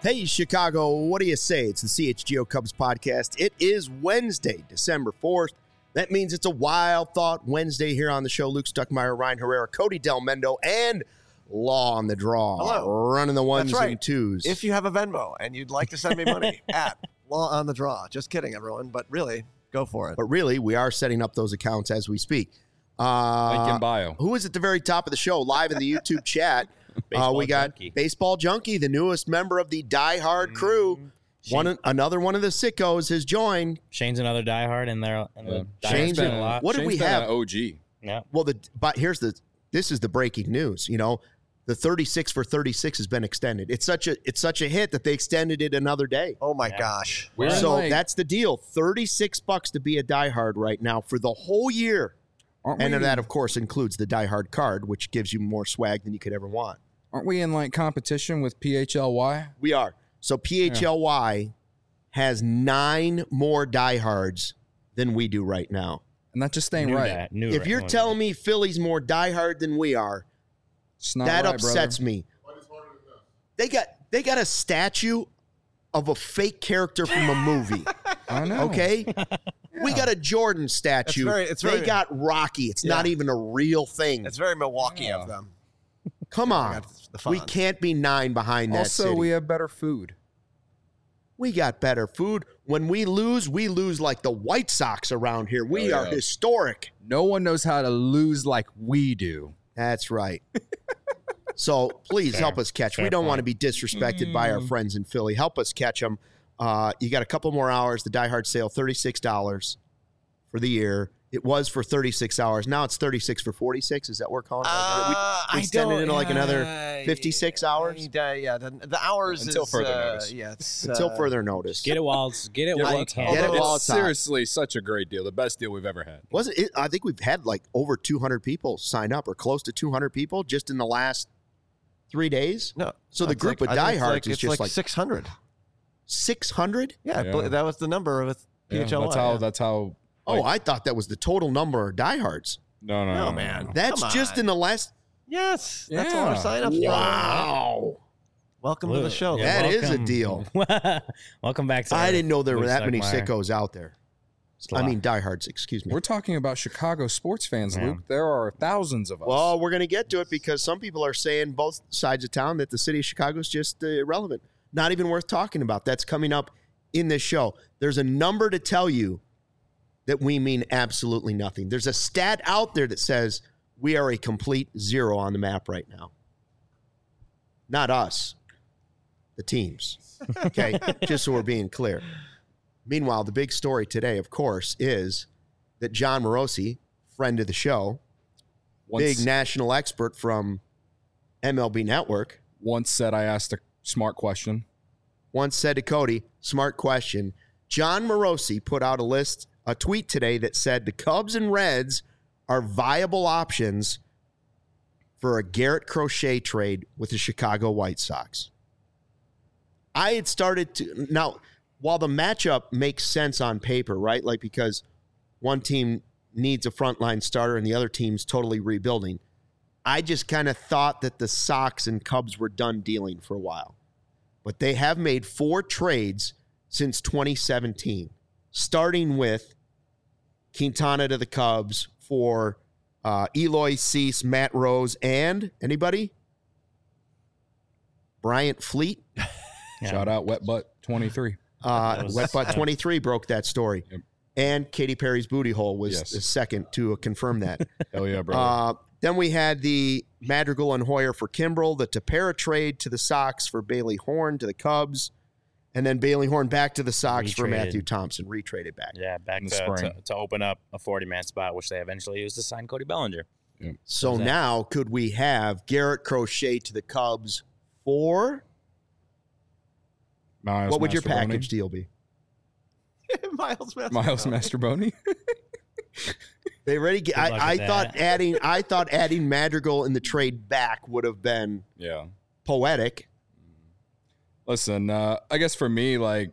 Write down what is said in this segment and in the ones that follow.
Hey, Chicago, what do you say? It's the CHGO Cubs podcast. It is Wednesday, December 4th. That means it's a Wild Thought Wednesday here on the show. Luke Stuckmeyer, Ryan Herrera, Cody Del Mendo, and Law on the Draw. Hello. Running the ones That's right. and twos. If you have a Venmo and you'd like to send me money at Law on the Draw. Just kidding, everyone. But really, go for it. But really, we are setting up those accounts as we speak. Link in bio. Who is at the very top of the show, live in the YouTube chat? We got Junkie. Baseball Junkie, the newest member of the Die Hard crew. Another one of the sickos has joined. Shane's another diehard, and they're Shane's been a lot. What did we have? An OG. Yeah. Well, this is the breaking news. You know, the 36 for 36 has been extended. It's such a hit that they extended it another day. Oh, my gosh. So that's the deal. $36 to be a diehard right now for the whole year. And then that, of course, includes the diehard card, which gives you more swag than you could ever want. Aren't we in like competition with PHLY? We are. So PHLY has 9 more diehards than we do right now. And that just ain't right. If you're telling me Philly's more diehard than we are, that upsets me. They got a statue of a fake character from a movie. I know. Okay? We got a Jordan statue. They got Rocky. It's not even a real thing. It's very Milwaukee of them. Come on. We can't be 9 behind that Also, city. we have better food. We got better food. When we lose like the White Sox around here. We are historic. No one knows how to lose like we do. That's right. So please help us catch. We don't want to be disrespected by our friends in Philly. Help us catch them. You got a couple more hours. The Die Hard sale, $36 for the year. It was for 36 hours. Now it's 36 for 46. Is that what we're calling it? We extended it into like another 56 hours? The hours Until is, further notice. Yeah, it's, Until further notice. Get it while you can. Get it while it's hot. Seriously, such a great deal. The best deal we've ever had. Wasn't it? I think we've had like over 200 people sign up or close to 200 people just in the last 3 days. No. So the group of diehards is just like 600. 600? Yeah, that was the number with PHLY. That's how. Oh, I thought that was the total number of diehards. No, man. That's just in the last. Yes, that's all our signups. Wow. Welcome to the show. That is a deal. Welcome back to I didn't know there were Luke that many Stuckmeyer. sickos out there. I mean, diehards, excuse me. We're talking about Chicago sports fans, Luke. There are thousands of us. Well, we're going to get to it because some people are saying both sides of town that the city of Chicago is just irrelevant. Not even worth talking about. That's coming up in this show. There's a number to tell you that we mean absolutely nothing. There's a stat out there that says we are a complete zero on the map right now. Not us, the teams. Okay, just so we're being clear. Meanwhile, the big story today, of course, is that John Morosi, friend of the show, big national expert from MLB Network, once said I asked a smart question. Once said to Cody, smart question. John Morosi put out a tweet today that said the Cubs and Reds are viable options for a Garrett Crochet trade with the Chicago White Sox. I had started to... Now, while the matchup makes sense on paper, right? Like because one team needs a frontline starter and the other team's totally rebuilding, I just kind of thought that the Sox and Cubs were done dealing for a while. But they have made 4 trades since 2017, starting with Quintana to the Cubs for Eloy Cease, Matt Rose, and anybody? Bryant Fleet. Shout out Wet Butt 23. Wet Butt 23 broke that story. Yep. And Katy Perry's booty hole was the second to confirm that. Hell yeah, brother. Then we had the Madrigal and Hoyer for Kimbrel, the Tepera trade to the Sox for Bailey Horn to the Cubs, and then Bailey Horn back to the Sox for Matthew Thompson, retraded back. Yeah, back in the spring. To open up a 40-man spot, which they eventually used to sign Cody Bellinger. Yeah. So now could we have Garrett Crochet to the Cubs for... What would your package deal be? Miles Mastroboni. They already get. I thought adding Madrigal in the trade back would have been poetic. Listen, I guess for me, like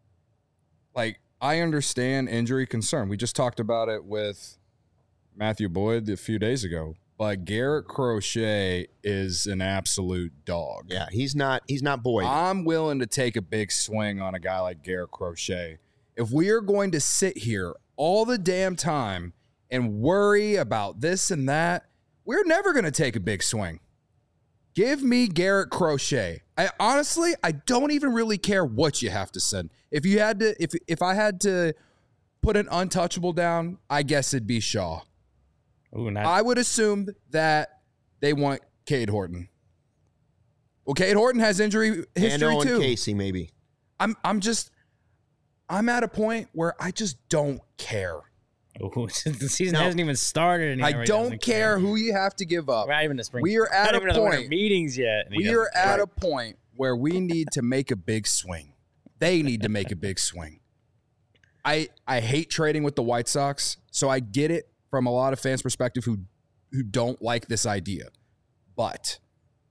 I understand injury concern. We just talked about it with Matthew Boyd a few days ago. but Garrett Crochet is an absolute dog. Yeah, he's not Boyd. I'm willing to take a big swing on a guy like Garrett Crochet. If we are going to sit here all the damn time and worry about this and that, we're never going to take a big swing. Give me Garrett Crochet. I don't even really care what you have to send. If I had to put an untouchable down, I guess it'd be Shaw. Ooh, I would assume that they want Cade Horton. Well, Cade Horton has injury history and Owen too. Casey, maybe. I'm at a point where I just don't care. Ooh, the season hasn't even started. And I don't care who you have to give up. We're not even the spring. We are at a point. Meetings yet. We are at a point where we need to make a big swing. They need to make a big swing. I hate trading with the White Sox, so I get it from a lot of fans' perspective who don't like this idea. But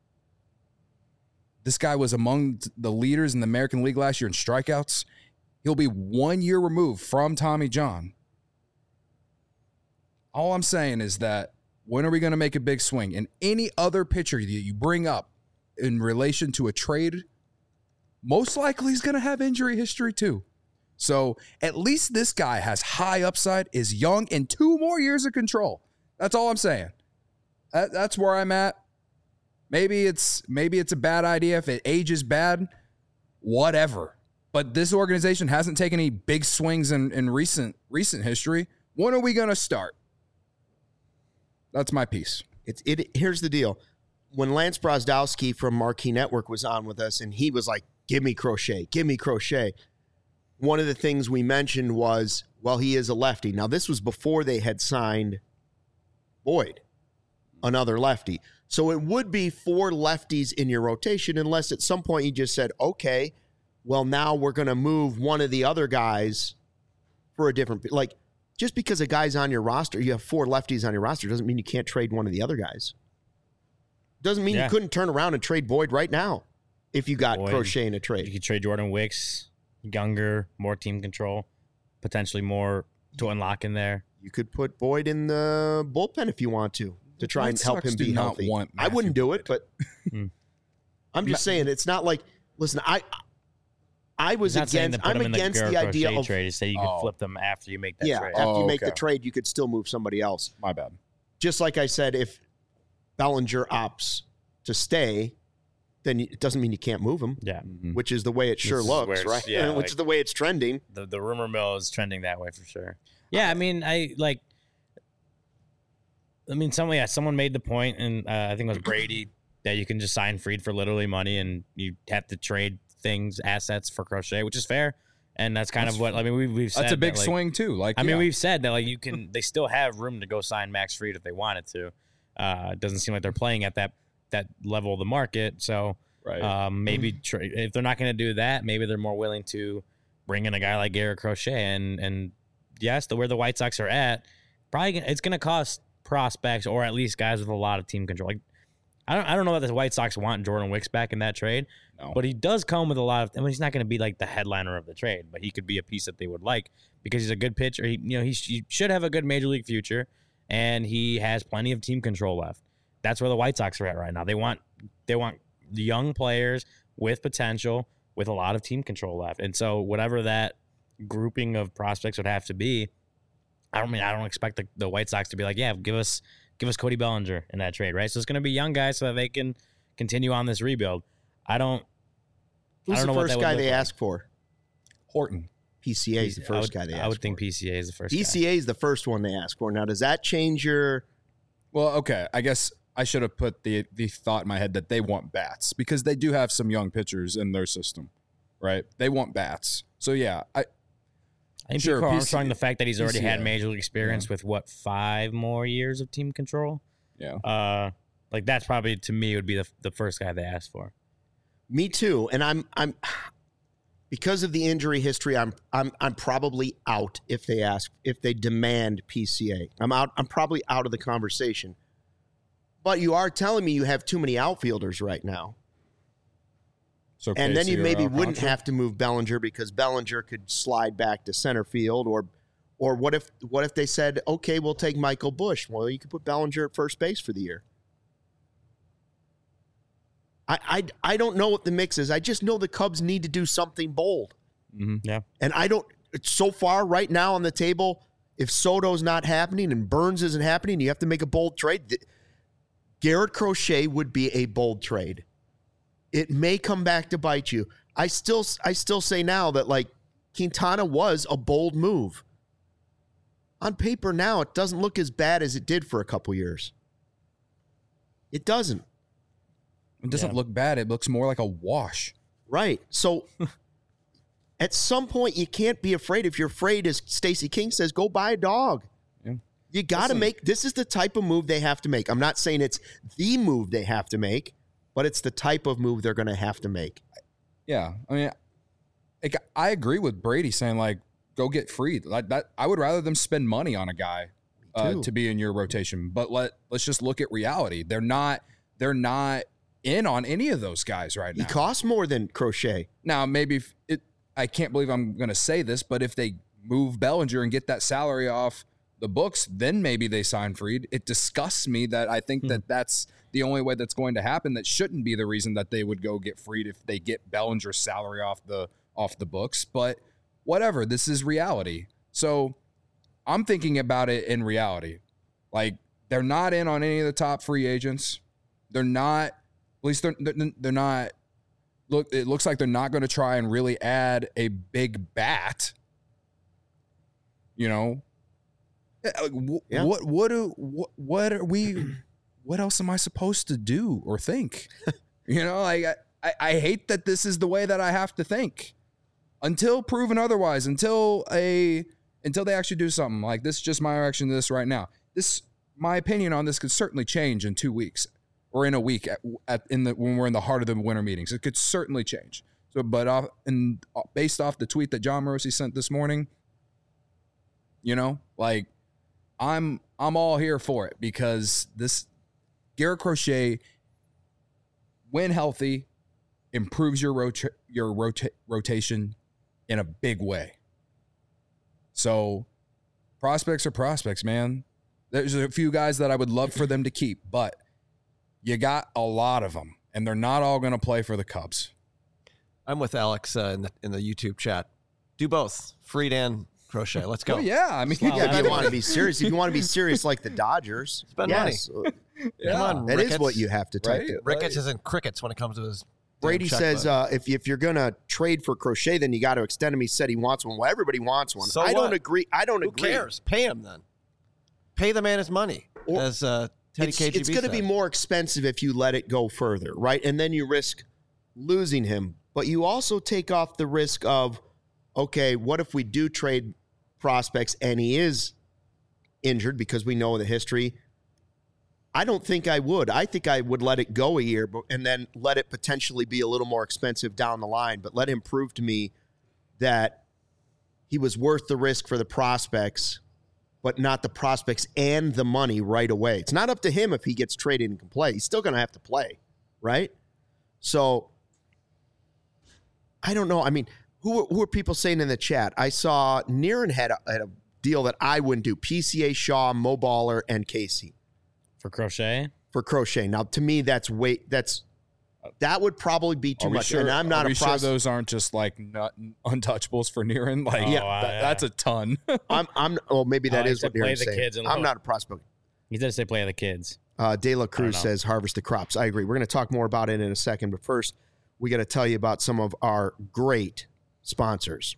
this guy was among the leaders in the American League last year in strikeouts. He'll be 1 year removed from Tommy John. All I'm saying is that when are we going to make a big swing? And any other pitcher that you bring up in relation to a trade, most likely he's going to have injury history too. So at least this guy has high upside, is young, and 2 more years of control. That's all I'm saying. That's where I'm at. Maybe it's a bad idea if it ages bad. Whatever. But this organization hasn't taken any big swings in recent history. When are we going to start? That's my piece. Here's the deal. When Lance Brozdowski from Marquee Network was on with us, and he was like, give me Crochet. One of the things we mentioned was, well, he is a lefty. Now, this was before they had signed Boyd, another lefty. So it would be 4 lefties in your rotation unless at some point you just said, okay, well, now we're going to move one of the other guys for a different – like, just because a guy's on your roster, you have 4 lefties on your roster, doesn't mean you can't trade one of the other guys. Doesn't mean you couldn't turn around and trade Boyd right now if you got Crochet in a trade. You could trade Jordan Wicks. Younger, more team control, potentially more to unlock in there. You could put Boyd in the bullpen if you want to try and help him be healthy. I wouldn't do it, but I'm just saying it's not like. Listen, I'm against the idea of trade. Say you could flip them after you make that trade. After you make the trade, you could still move somebody else. My bad. Just like I said, if Bellinger opts to stay, then it doesn't mean you can't move him. Yeah. Which is the way it sure looks, right? Yeah, which is the way it's trending. The rumor mill is trending that way for sure. Yeah, someone made the point, and I think it was Brady, that you can just sign Fried for literally money, and you have to trade assets for Crochet, which is fair. And that's kind of what we've said. That's a big swing too. We've said that you can. They still have room to go sign Max Fried if they wanted to. It doesn't seem like they're playing at that level of the market. So maybe if they're not going to do that, maybe they're more willing to bring in a guy like Garrett Crochet. And yes, where the White Sox are at, probably it's going to cost prospects or at least guys with a lot of team control. I don't know that the White Sox want Jordan Wicks back in that trade, but he does come with a lot of. He's not going to be like the headliner of the trade, but he could be a piece that they would like because he's a good pitcher. He should have a good major league future, and he has plenty of team control left. That's where the White Sox are at right now. They want the young players with potential, with a lot of team control left. And so whatever that grouping of prospects would have to be, I don't expect the White Sox to be like, yeah, give us Cody Bellinger in that trade, right? So it's going to be young guys so that they can continue on this rebuild. Who's the first guy they ask for? Horton. PCA is the first guy they ask for. I would think PCA is the first guy. PCA is the first one they ask for. Now, does that change your... Well, okay, I guess I should have put the thought in my head that they want bats because they do have some young pitchers in their system, right? They want bats. So, yeah, I think sure, Pico Armstrong, the fact that he's already had major league experience with, 5 more years of team control? Yeah. That's probably, to me, would be the first guy they asked for. Me too. And I'm because of the injury history, I'm probably out if they demand PCA. I'm out. I'm probably out of the conversation. But you are telling me you have too many outfielders right now. So and then you maybe wouldn't Alcantara? have to move Bellinger because Bellinger could slide back to center field Or what if they said, okay, we'll take Michael Busch? Well, you could put Bellinger at first base for the year. I don't know what the mix is. I just know the Cubs need to do something bold. Mm-hmm. Yeah. And so far right now on the table, if Soto's not happening and Burns isn't happening, you have to make a bold trade. Garrett Crochet would be a bold trade. It may come back to bite you. I still say now that like Quintana was a bold move. On paper now, it doesn't look as bad as it did for a couple years. It doesn't. It doesn't look bad. It looks more like a wash. Right. So at some point, you can't be afraid. If you're afraid, as Stacey King says, go buy a dog. Yeah. You got to make – this is the type of move they have to make. I'm not saying it's the move they have to make, but it's the type of move they're going to have to make. Yeah. I mean, I agree with Brady saying, like, go get Fried. Like that, I would rather them spend money on a guy to be in your rotation. But let's just look at reality. They're not in on any of those guys right now. He costs more than Crochet. Now, maybe I can't believe I'm going to say this, but if they move Bellinger and get that salary off the books, then maybe they sign Fried. It disgusts me that I think that that's the only way that's going to happen. That shouldn't be the reason that they would go get Fried if they get Bellinger's salary off the books. But whatever, this is reality. So I'm thinking about it in reality. Like, they're not in on any of the top free agents. They're not, at least they're not, look, it looks like they're not going to try and really add a big bat. You know? Yeah. What else am I supposed to do or think? You know, like I hate that this is the way that I have to think. Until proven otherwise, until they actually do something. Like, this is just my reaction to this right now. My opinion on this could certainly change in 2 weeks or in a week when we're in the heart of the winter meetings. It could certainly change. So, but based off the tweet that John Morosi sent this morning, you know, like, I'm all here for it, because this Garrett Crochet, when healthy, improves your rotation in a big way. So prospects are prospects, man. There's a few guys that I would love for them to keep, but you got a lot of them, and they're not all going to play for the Cubs. I'm with Alex in the YouTube chat. Do both, Fried and Crochet. Let's go. Oh, yeah. I mean, if you want to be serious, like the Dodgers, spend money. Yeah. Come on, that Ricketts. Is what you have to type. Right? Ricketts is in crickets when it comes to his. Brady says if you're going to trade for Crochet, then you got to extend him. He said he wants one. Well, everybody wants one. So I don't agree. Who cares? Pay him then. Pay the man his money. As Teddy KGB it's going to be more expensive if you let it go further, right? And then you risk losing him. But you also take off the risk of, okay, what if we do trade prospects and he is injured, because we know the history? I don't think I would. I think I would let it go a year and then let it potentially be a little more expensive down the line, but let him prove to me that he was worth the risk for the prospects, but not the prospects and the money right away. It's not up to him if he gets traded and can play. He's still going to have to play, right? So I don't know. I mean, who are people saying in the chat? I saw Niren had a deal that I wouldn't do. PCA, Shaw, Mo Baller, and Casey. For Crochet? For Crochet. Now, to me, that would probably be too much. Sure, and I'm not sure those aren't just like untouchables for Niren? Like, that's a ton. Maybe that is what Niren's saying. I'm not a prospect. He did say play the kids. De La Cruz says harvest the crops. I agree. We're going to talk more about it in a second, but first, we got to tell you about some of our great sponsors.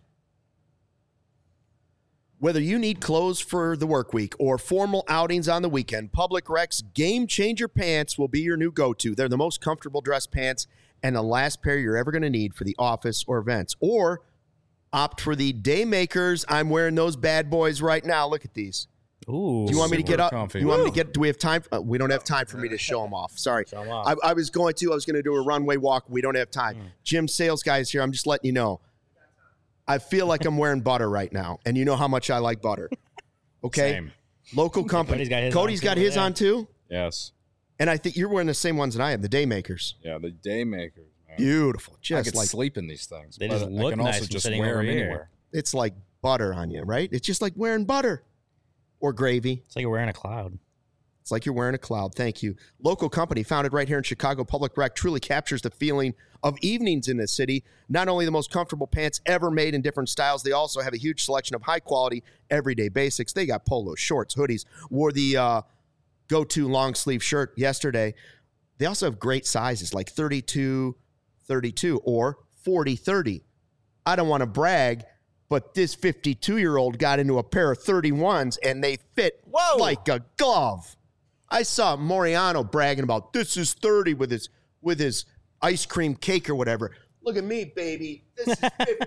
Whether you need clothes for the work week or formal outings on the weekend, Public Rec's Game Changer pants will be your new go-to. They're the most comfortable dress pants and the last pair you're ever going to need for the office or events. Or opt for the Daymakers. I'm wearing those bad boys right now. Look at these. Ooh, do you want me to get up? Comfy. You want me to get? Do we have time? We don't have time for me to show them off. Sorry. Show them off. I was going to do a runway walk. We don't have time. Jim, sales guy is here. I'm just letting you know. I feel like I'm wearing butter right now, and you know how much I like butter. Okay? Same. Local company. Cody's got his on too? Yes. And I think you're wearing the same ones that I am, the Daymakers. Yeah, the Daymakers, man. Beautiful. I could sleep in these things. They just look I can nice also just sitting wear over them here. anywhere. It's like butter on you, right? It's just like wearing butter or gravy. It's like you're wearing a cloud. It's like you're wearing a cloud. Thank you. Local company founded right here in Chicago, Public Rec, truly captures the feeling of evenings in the city. Not only the most comfortable pants ever made in different styles, they also have a huge selection of high-quality, everyday basics. They got polos, shorts, hoodies. Wore the go-to long-sleeve shirt yesterday. They also have great sizes like 32, 32, or 40, 30. I don't want to brag, but this 52-year-old got into a pair of 31s, and they fit like a glove. I saw Moriano bragging about this is 30 with his ice cream cake or whatever. Look at me, baby. This is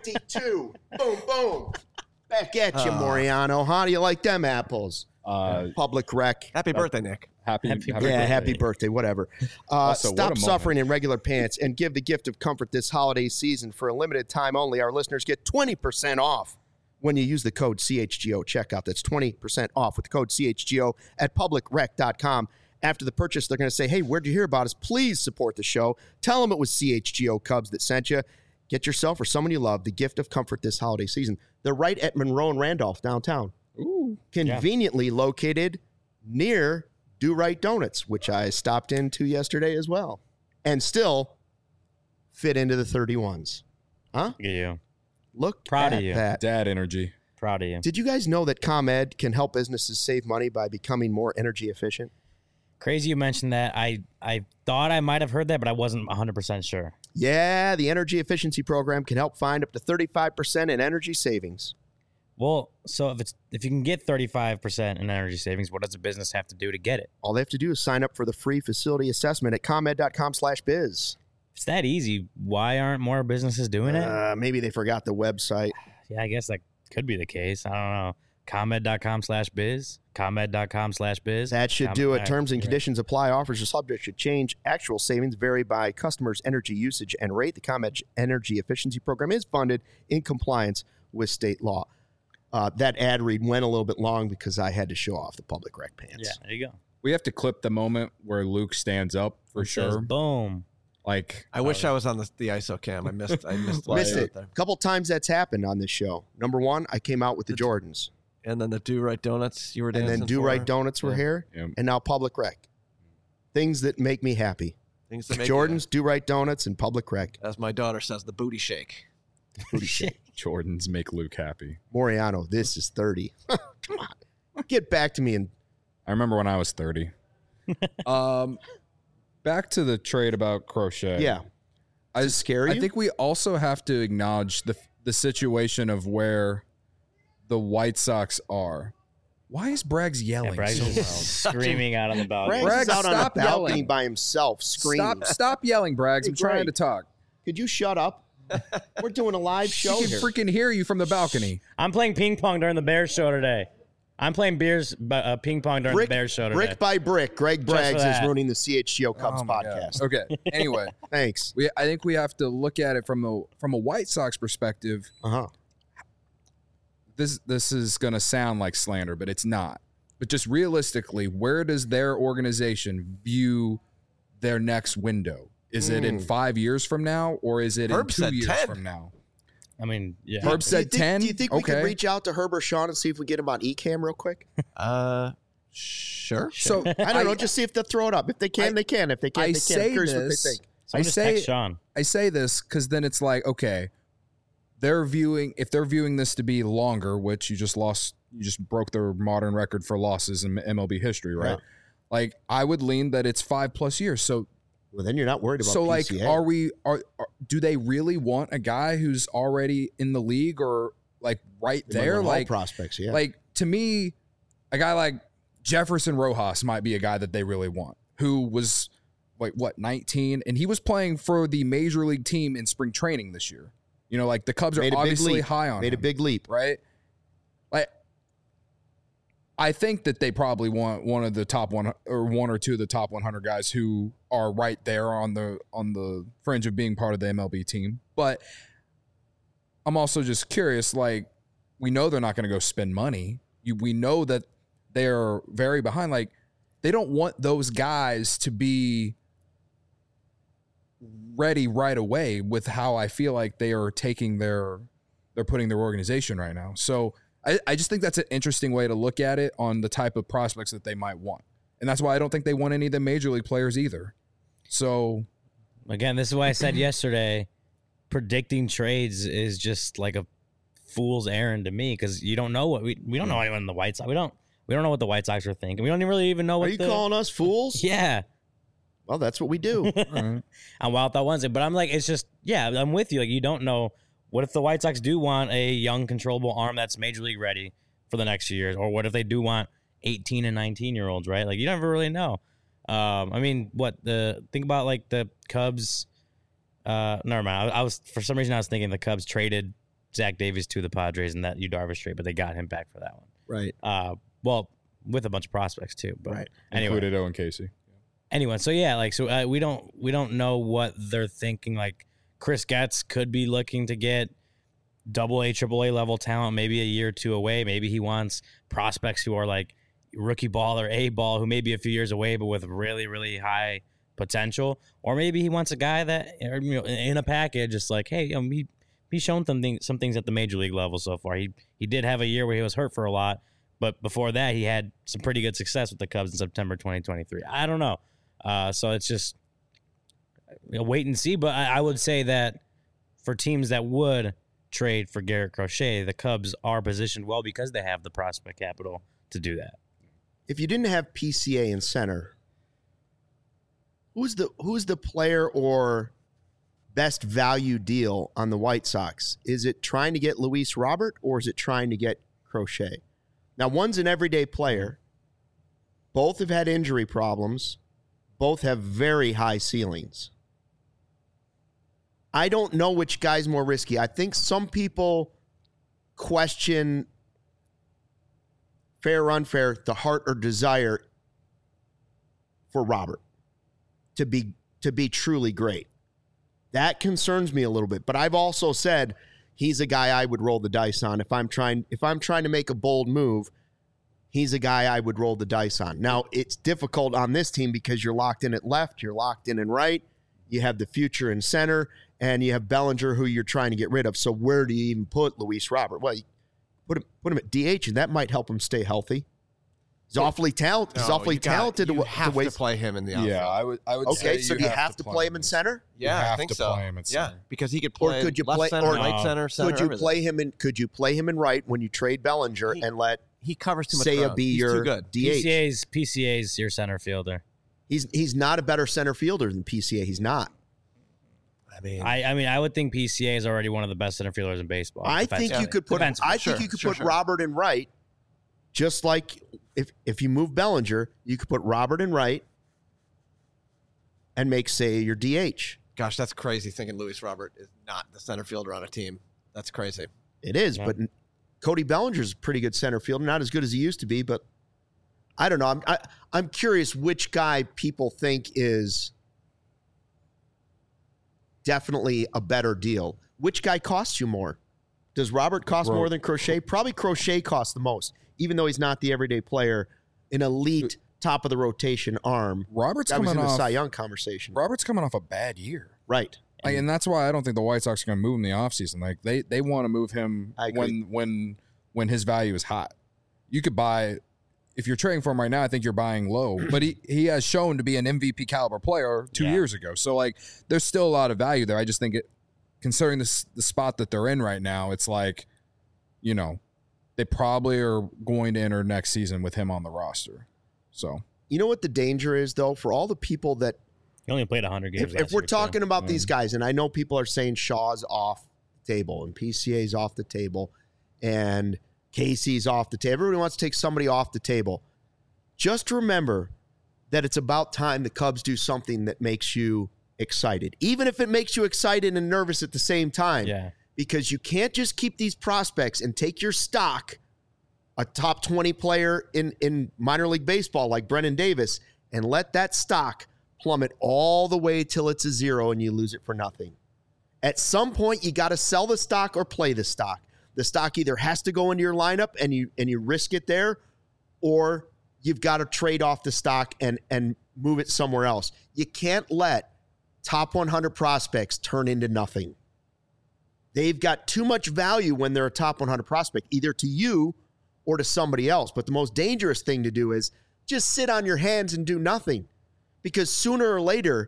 52. Boom, boom. Back at you, Moriano. How do you like them apples? Public Rec. Happy birthday, Nick. Happy Birthday, whatever. Also, what a Stop moment. suffering in regular pants and give the gift of comfort this holiday season. For a limited time only, our listeners get 20% off when you use the code CHGO checkout. That's 20% off with the code CHGO at publicrec.com. After the purchase, they're going to say, hey, where'd you hear about us? Please support the show. Tell them it was CHGO Cubs that sent you. Get yourself or someone you love the gift of comfort this holiday season. They're right at Monroe and Randolph downtown. Ooh. Conveniently located near Do Right Donuts, which I stopped into yesterday as well. And still fit into the 31s. Huh? Look at you. Look Proud at of you. that. Dad energy. Proud of you. Did you guys know that ComEd can help businesses save money by becoming more energy efficient? Crazy you mentioned that. I thought I might have heard that, but I wasn't 100% sure. Yeah, the energy efficiency program can help find up to 35% in energy savings. Well, so if you can get 35% in energy savings, what does a business have to do to get it? All they have to do is sign up for the free facility assessment at comed.com/biz. If it's that easy, why aren't more businesses doing it? Maybe they forgot the website. Yeah, I guess that could be the case. I don't know. ComEd.com/biz. ComEd.com/biz. That should do it. Right, Terms and you're right. conditions apply. Offers are subject to change. Actual savings vary by customers' energy usage and rate. The ComEd Energy Efficiency Program is funded in compliance with state law. That ad read went a little bit long because I had to show off the Public Rec pants. Yeah, there you go. We have to clip the moment where Luke stands up for It says sure. boom. Like, I wish I was on the ISO cam. I missed the Missed way it. out there. A couple times that's happened on this show. Number one, I came out with the Jordans. And then the Do Right Donuts you were And dancing then Do for. Right Donuts were Yeah. here. Yep. And now Public Rec. Things that make me happy. Things that make Jordans, Do Right Donuts, and Public Rec. as my daughter says, the booty shake. Booty shake. Jordans make Luke happy. Moriano, this is 30. Come on. Get back to me. And I remember when I was 30. Back to the trade about Crochet. yeah. I scare you? I think we also have to acknowledge the situation of where the White Sox are. Why is Braggs yelling Yeah, Bragg's so loud? just screaming out on the balcony. Braggs is Braggs, out on a stop balcony yelling. by himself screaming. Stop yelling, Braggs. Hey, I'm trying Greg. to talk. Could you shut up? We're doing a live show She here. can freaking hear you from the balcony. I'm playing ping pong during the Bears show today. I'm playing ping pong during the Bears show today. brick by brick, Greg Just for Braggs is that. ruining the CHGO Cubs Oh my podcast. God. Okay. Anyway, Thanks. I think we have to look at it from a White Sox perspective. Uh-huh. This is going to sound like slander, but it's not. But just realistically, where does their organization view their next window? Is it in 5 years from now, or is it Herb in said 2 years 10. from now? I mean, yeah. Herb Do you said think- 10. Do you think we Okay. could reach out to Herb or Sean and see if we get him on eCam real quick? Sure. So I don't know. Just see if they'll throw it up. If they can, they can. If they can't, I they can. I'm say curious what they this. think. Someone just text Sean. I say this because then it's like, okay, if they're viewing this to be longer, which you just broke their modern record for losses in MLB history, right? Yeah. Like, I would lean that it's 5+ years. So Well, then you're not worried about so like, PCA. do they really want a guy who's already in the league or like right They might there? want all Like, prospects, yeah. like to me, a guy like Jefferson Rojas might be a guy that they really want, who was like 19, and he was playing for the major league team in spring training this year. You know, like the Cubs Made are a big obviously leap. high on Made a him, big leap. right? Like, I think that they probably want one of the top one or two of the top 100 guys who are right there on the fringe of being part of the MLB team. But I'm also just curious, like, we know they're not going to go spend money. We know that they're very behind. Like, they don't want those guys to be ready right away with how I feel like they are taking their they're putting their organization right now. So I just think that's an interesting way to look at it on the type of prospects that they might want. And that's why I don't think they want any of the major league players either. So again, this is why I said yesterday, predicting trades is just like a fool's errand to me, because you don't know what we don't know anyone in the White Sox. We don't know what the White Sox are thinking. We don't really even know what. Are you calling us fools? Yeah. Well, that's what we do. On Wild Thought Wednesday, but I'm like, it's just, yeah, I'm with you. Like, you don't know. What if the White Sox do want a young, controllable arm that's major league ready for the next few years? Or what if they do want 18 and 19-year-olds, right? Like, you never really know. I mean, think about like the Cubs. Never mind. I was, for some reason, I was thinking the Cubs traded Zach Davies to the Padres and that Yu Darvish trade, but they got him back for that one. Right. Well, with a bunch of prospects too. But right. Anyway. Included Owen Casey. Anyway, so yeah, like, so we don't know what they're thinking. Like, Chris Getz could be looking to get AA, AAA level talent, maybe a year or two away. Maybe he wants prospects who are like rookie ball or A ball, who may be a few years away, but with really, really high potential. Or maybe he wants a guy that, in a package, it's like, hey, he's shown some things at the major league level so far. He did have a year where he was hurt for a lot, but before that, he had some pretty good success with the Cubs in September 2023. I don't know. So it's just wait and see. But I would say that for teams that would trade for Garrett Crochet, the Cubs are positioned well because they have the prospect capital to do that. If you didn't have PCA in center, who's the player or best value deal on the White Sox? Is it trying to get Luis Robert or is it trying to get Crochet? Now, one's an everyday player. Both have had injury problems. Both have very high ceilings. I don't know which guy's more risky. I think some people question, fair or unfair, the heart or desire for Robert to be truly great. That concerns me a little bit. But I've also said he's a guy I would roll the dice on. If I'm trying to make a bold move, he's a guy I would roll the dice on. Now, it's difficult on this team because you're locked in at left, you're locked in right, you have the future in center, and you have Bellinger, who you're trying to get rid of. So where do you even put Luis Robert? Well, you put him at DH, and that might help him stay healthy. He's awfully talented. He's awfully talented. You have to play him in the outfield. Yeah, I would. Okay, so do you have to play him in center? Yeah, I think so. Play him in center. Yeah, because he could play left center, right center, Could you play him in? Could you play him in right when you trade Bellinger and let he covers too much Seiya ground. be He's your too good. DH? PCA's your center fielder. He's not a better center fielder than PCA. He's not. I mean, I would think PCA is already one of the best center fielders in baseball. I think you could put. I think you could put Robert in right, just like if you move Bellinger, you could put Robert in right, and make Seiya your DH. Gosh, that's crazy. Thinking Luis Robert is not the center fielder on a team. That's crazy. It is, but Cody Bellinger's a pretty good center fielder. Not as good as he used to be, but I don't know. I'm curious which guy people think is definitely a better deal. Which guy costs you more? Does Robert cost more than Crochet? Probably Crochet costs the most, even though he's not the everyday player, an elite top of the rotation arm. Robert's that was coming in the off Cy Young conversation. Robert's coming off a bad year. Right. And that's why I don't think the White Sox are going to move him in the offseason. Like they want to move him when his value is hot. You could buy, if you're trading for him right now, I think you're buying low. But he has shown to be an MVP caliber player 2 years ago. So like there's still a lot of value there. I just think considering the spot that they're in right now, it's like, they probably are going to enter next season with him on the roster. So you know what the danger is though, for all the people that he only played 100 games. If we're talking about these guys, and I know people are saying Shaw's off the table and PCA's off the table and Casey's off the table. Everybody wants to take somebody off the table. Just remember that it's about time the Cubs do something that makes you excited, even if it makes you excited and nervous at the same time. Yeah. Because you can't just keep these prospects and take your stock, a top 20 player in minor league baseball like Brennan Davis, and let that stock plummet all the way till it's a zero and you lose it for nothing. At some point, you got to sell the stock or play the stock. The stock either has to go into your lineup and you risk it there, or you've got to trade off the stock and move it somewhere else. You can't let top 100 prospects turn into nothing. They've got too much value when they're a top 100 prospect, either to you or to somebody else. But the most dangerous thing to do is just sit on your hands and do nothing. Because sooner or later,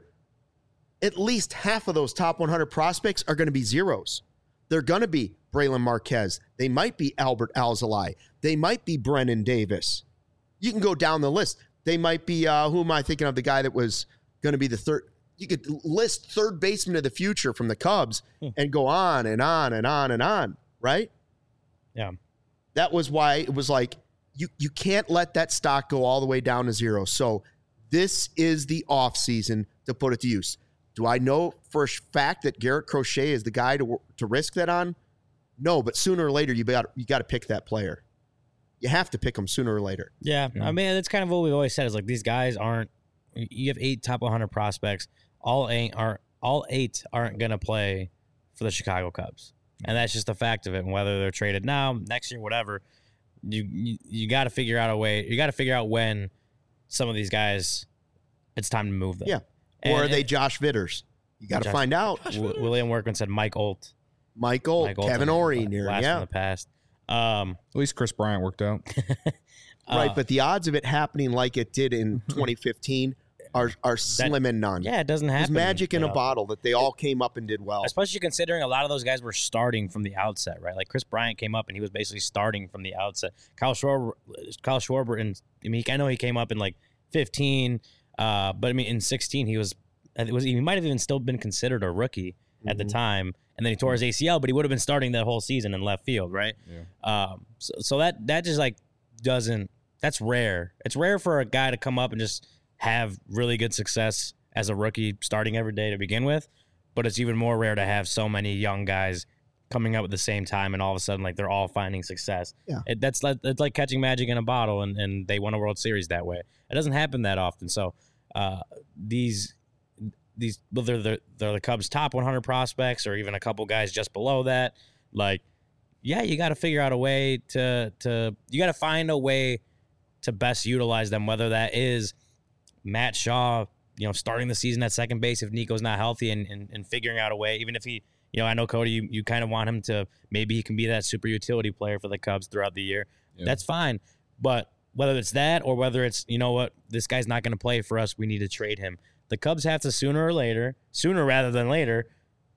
at least half of those top 100 prospects are going to be zeros. They're going to be Braylon Marquez. They might be Albert Alzolay. They might be Brennan Davis. You can go down the list. They might be, who am I thinking of, the guy that was going to be the third? You could list third baseman of the future from the Cubs and go on and on and on and on, right? Yeah. That was why it was like, you can't let that stock go all the way down to zero. So this is the offseason to put it to use. Do I know for a fact that Garrett Crochet is the guy to risk that on? No, but sooner or later, you got to pick that player. You have to pick them sooner or later. Yeah. I mean, that's kind of what we've always said is like these guys aren't – you have 8 top 100 prospects. All eight aren't going to play for the Chicago Cubs. And that's just the fact of it. And whether they're traded now, next year, whatever, you got to figure out a way. You got to figure out when some of these guys, it's time to move them. Yeah. Or are they Josh Vitters? You got to find out. William Workman said Mike Olt. Mike Olt, Kevin Orie near, in the past. At least Chris Bryant worked out. Right, but the odds of it happening like it did in 2015 are slim and none. Yeah, it doesn't happen. It's magic in a bottle that they all came up and did well. Especially considering a lot of those guys were starting from the outset, right? Like Chris Bryant came up and he was basically starting from the outset. Kyle Schwarber, and I mean, I know he came up in like 15, but I mean, in 16 he might have even still been considered a rookie at the time, and then he tore his ACL, but he would have been starting that whole season in left field, right? Yeah. So that just like doesn't. That's rare. It's rare for a guy to come up and just have really good success as a rookie starting every day to begin with, but it's even more rare to have so many young guys coming up at the same time and all of a sudden like they're all finding success. Yeah. It's like catching magic in a bottle and they won a World Series that way. It doesn't happen that often. So whether they're the Cubs' top 100 prospects or even a couple guys just below that, like, yeah, you got to figure out a way you got to find a way to best utilize them, whether that is Matt Shaw, starting the season at second base if Nico's not healthy and figuring out a way, even if he, I know, Cody, you kind of want him to, maybe he can be that super utility player for the Cubs throughout the year. Yeah. That's fine. But whether it's that or whether it's, this guy's not going to play for us, we need to trade him. The Cubs have to sooner rather than later,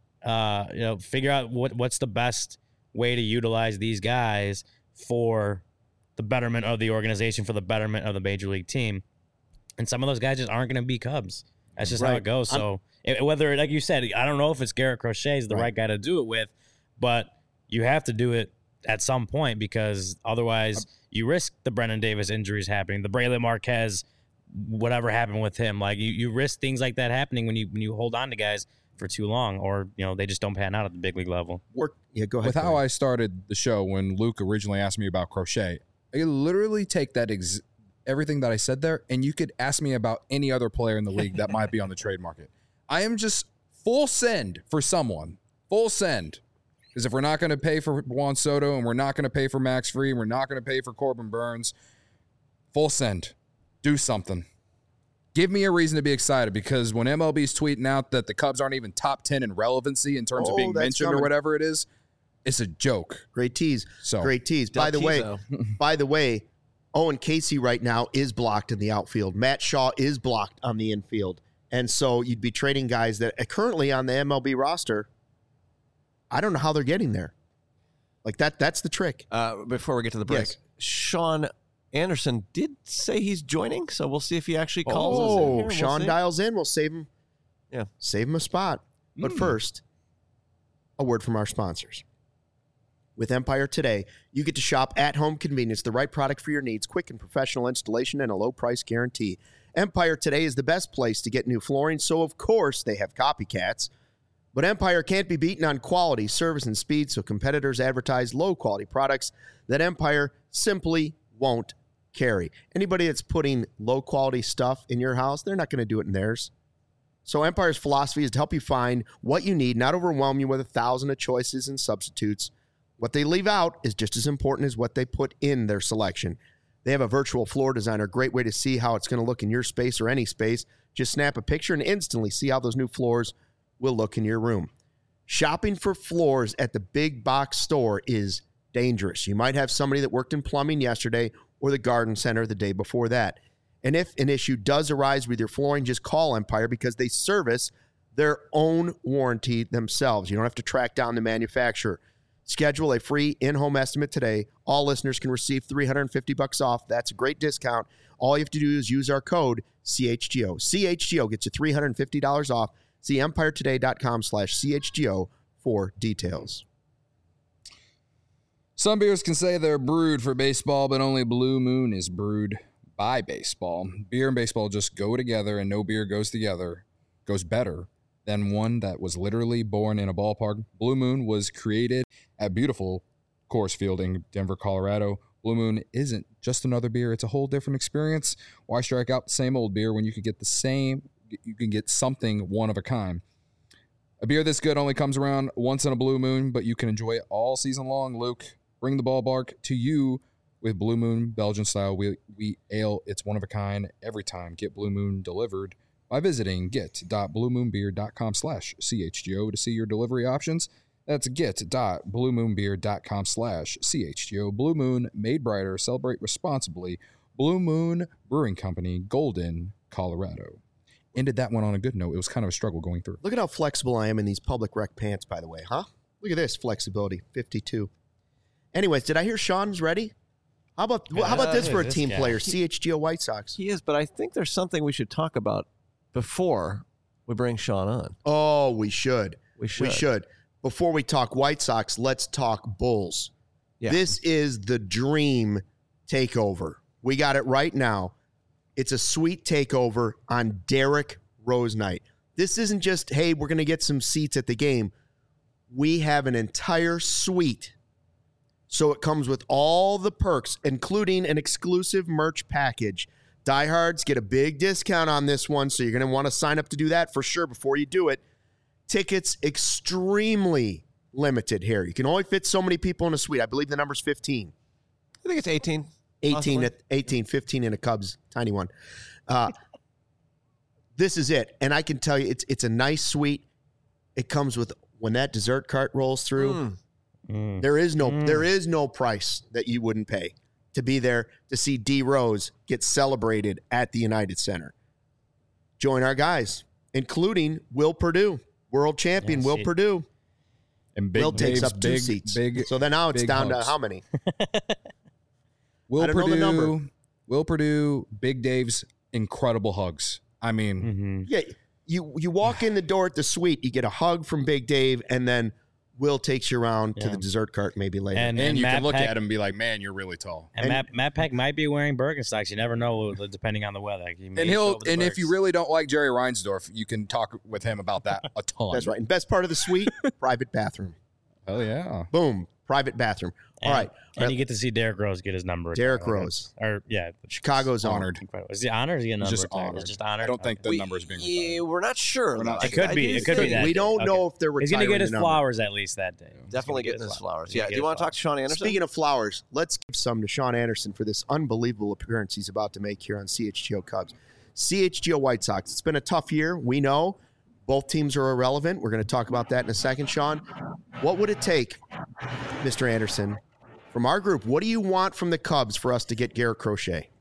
figure out what's the best way to utilize these guys for the betterment of the organization, for the betterment of the major league team. And some of those guys just aren't going to be Cubs. That's just how it goes. So whether, like you said, I don't know if it's Garrett Crochet is the right guy to do it with, but you have to do it at some point because otherwise you risk the Brennan Davis injuries happening, the Braylon Marquez, whatever happened with him. Like you risk things like that happening when you hold on to guys for too long, or they just don't pan out at the big league level. Yeah, go ahead. With how I started the show when Luke originally asked me about Crochet, I could literally take that everything that I said there, and you could ask me about any other player in the league that might be on the trade market. I am just full send for someone. Full send. Because if we're not going to pay for Juan Soto and we're not going to pay for Max Fried and we're not going to pay for Corbin Burns, full send. Do something. Give me a reason to be excited because when MLB's tweeting out that the Cubs aren't even top 10 in relevancy in terms of being mentioned or whatever it is, it's a joke. Great tease. Great tease. By the way, Owen Casey right now is blocked in the outfield. Matt Shaw is blocked on the infield. And so you'd be trading guys that are currently on the MLB roster. I don't know how they're getting there. Like that's the trick. Before we get to the break, Sean Anderson did say he's joining, so we'll see if he actually calls us in here. Sean dials in. We'll save him. Yeah. Save him a spot. But first, a word from our sponsors. With Empire Today, you get to shop at-home convenience, the right product for your needs, quick and professional installation, and a low price guarantee. Empire Today is the best place to get new flooring, so of course they have copycats. But Empire can't be beaten on quality, service, and speed, so competitors advertise low-quality products that Empire simply won't carry. Anybody that's putting low-quality stuff in your house, they're not going to do it in theirs. So Empire's philosophy is to help you find what you need, not overwhelm you with 1,000 of choices and substitutes. What they leave out is just as important as what they put in their selection. They have a virtual floor designer, great way to see how it's going to look in your space or any space. Just snap a picture and instantly see how those new floors will look in your room. Shopping for floors at the big box store is dangerous. You might have somebody that worked in plumbing yesterday or the garden center the day before that. And if an issue does arise with your flooring, just call Empire because they service their own warranty themselves. You don't have to track down the manufacturer. Schedule a free in-home estimate today. All listeners can receive $350 off. That's a great discount. All you have to do is use our code CHGO. CHGO gets you $350 off. See empiretoday.com/CHGO for details. Some beers can say they're brewed for baseball, but only Blue Moon is brewed by baseball. Beer and baseball just go together, and no beer goes better than one that was literally born in a ballpark. Blue Moon was created at beautiful Coors Field in Denver, Colorado. Blue Moon isn't just another beer. It's a whole different experience. Why strike out the same old beer when you can get something one of a kind? A beer this good only comes around once in a Blue Moon, but you can enjoy it all season long. Luke, bring the ballpark to you with Blue Moon Belgian style wheat ale. It's one of a kind every time. Get Blue Moon delivered by visiting get.bluemoonbeer.com/CHGO to see your delivery options. That's get.bluemoonbeer.com/CHGO. Blue Moon, made brighter. Celebrate responsibly. Blue Moon Brewing Company, Golden, Colorado. Ended that one on a good note. It was kind of a struggle going through. Look at how flexible I am in these public rec pants, by the way, huh? Look at this flexibility, 52. Anyways, did I hear Sean's ready? How about this for a team player, CHGO White Sox? He is, but I think there's something we should talk about before we bring Sean on. Oh, we should. We should. Before we talk White Sox, let's talk Bulls. Yeah. This is the dream takeover. We got it right now. It's a sweet takeover on Derrick Rose night. This isn't just, hey, we're going to get some seats at the game. We have an entire suite. So it comes with all the perks, including an exclusive merch package. Diehards get a big discount on this one, so you're going to want to sign up to do that for sure before you do it. Tickets extremely limited here. You can only fit so many people in a suite. I believe the number's 15. I think it's 18. 18, 15 in a Cubs tiny one. This is it. And I can tell you, it's a nice suite. It comes with, when that dessert cart rolls through, there is no price that you wouldn't pay to be there to see D Rose get celebrated at the United Center. Join our guys, including Will Perdue, world champion Will Perdue. And Will takes up two seats. So then now it's down to how many? Will Perdue, Big Dave's incredible hugs. I mean, yeah, you walk in the door at the suite, you get a hug from Big Dave, and then Will takes you around to the dessert cart maybe later. And you can look at him and be like, man, you're really tall. And Matt Peck might be wearing Birkenstocks. You never know, depending on the weather. And if you really don't like Jerry Reinsdorf, you can talk with him about that a ton. That's right. And best part of the suite, private bathroom. Oh, yeah. Boom. Private bathroom. All right. And you get to see Derrick Rose get his number. Derrick Rose. Chicago's honored. Is he honored or is he a number? Just honored. Just honored. I don't think the number is being retired. Yeah, we're not sure. It could be. It could be that. We don't know if they're retiring. He's going to get his flowers at least that day. Definitely getting his flowers. Yeah. Do you want to talk to Sean Anderson? Speaking of flowers, let's give some to Sean Anderson for this unbelievable appearance he's about to make here on CHGO Cubs. CHGO White Sox. It's been a tough year. We know. Both teams are irrelevant. We're going to talk about that in a second, Sean. What would it take, Mr. Anderson, from our group? What do you want from the Cubs for us to get Garrett Crochet?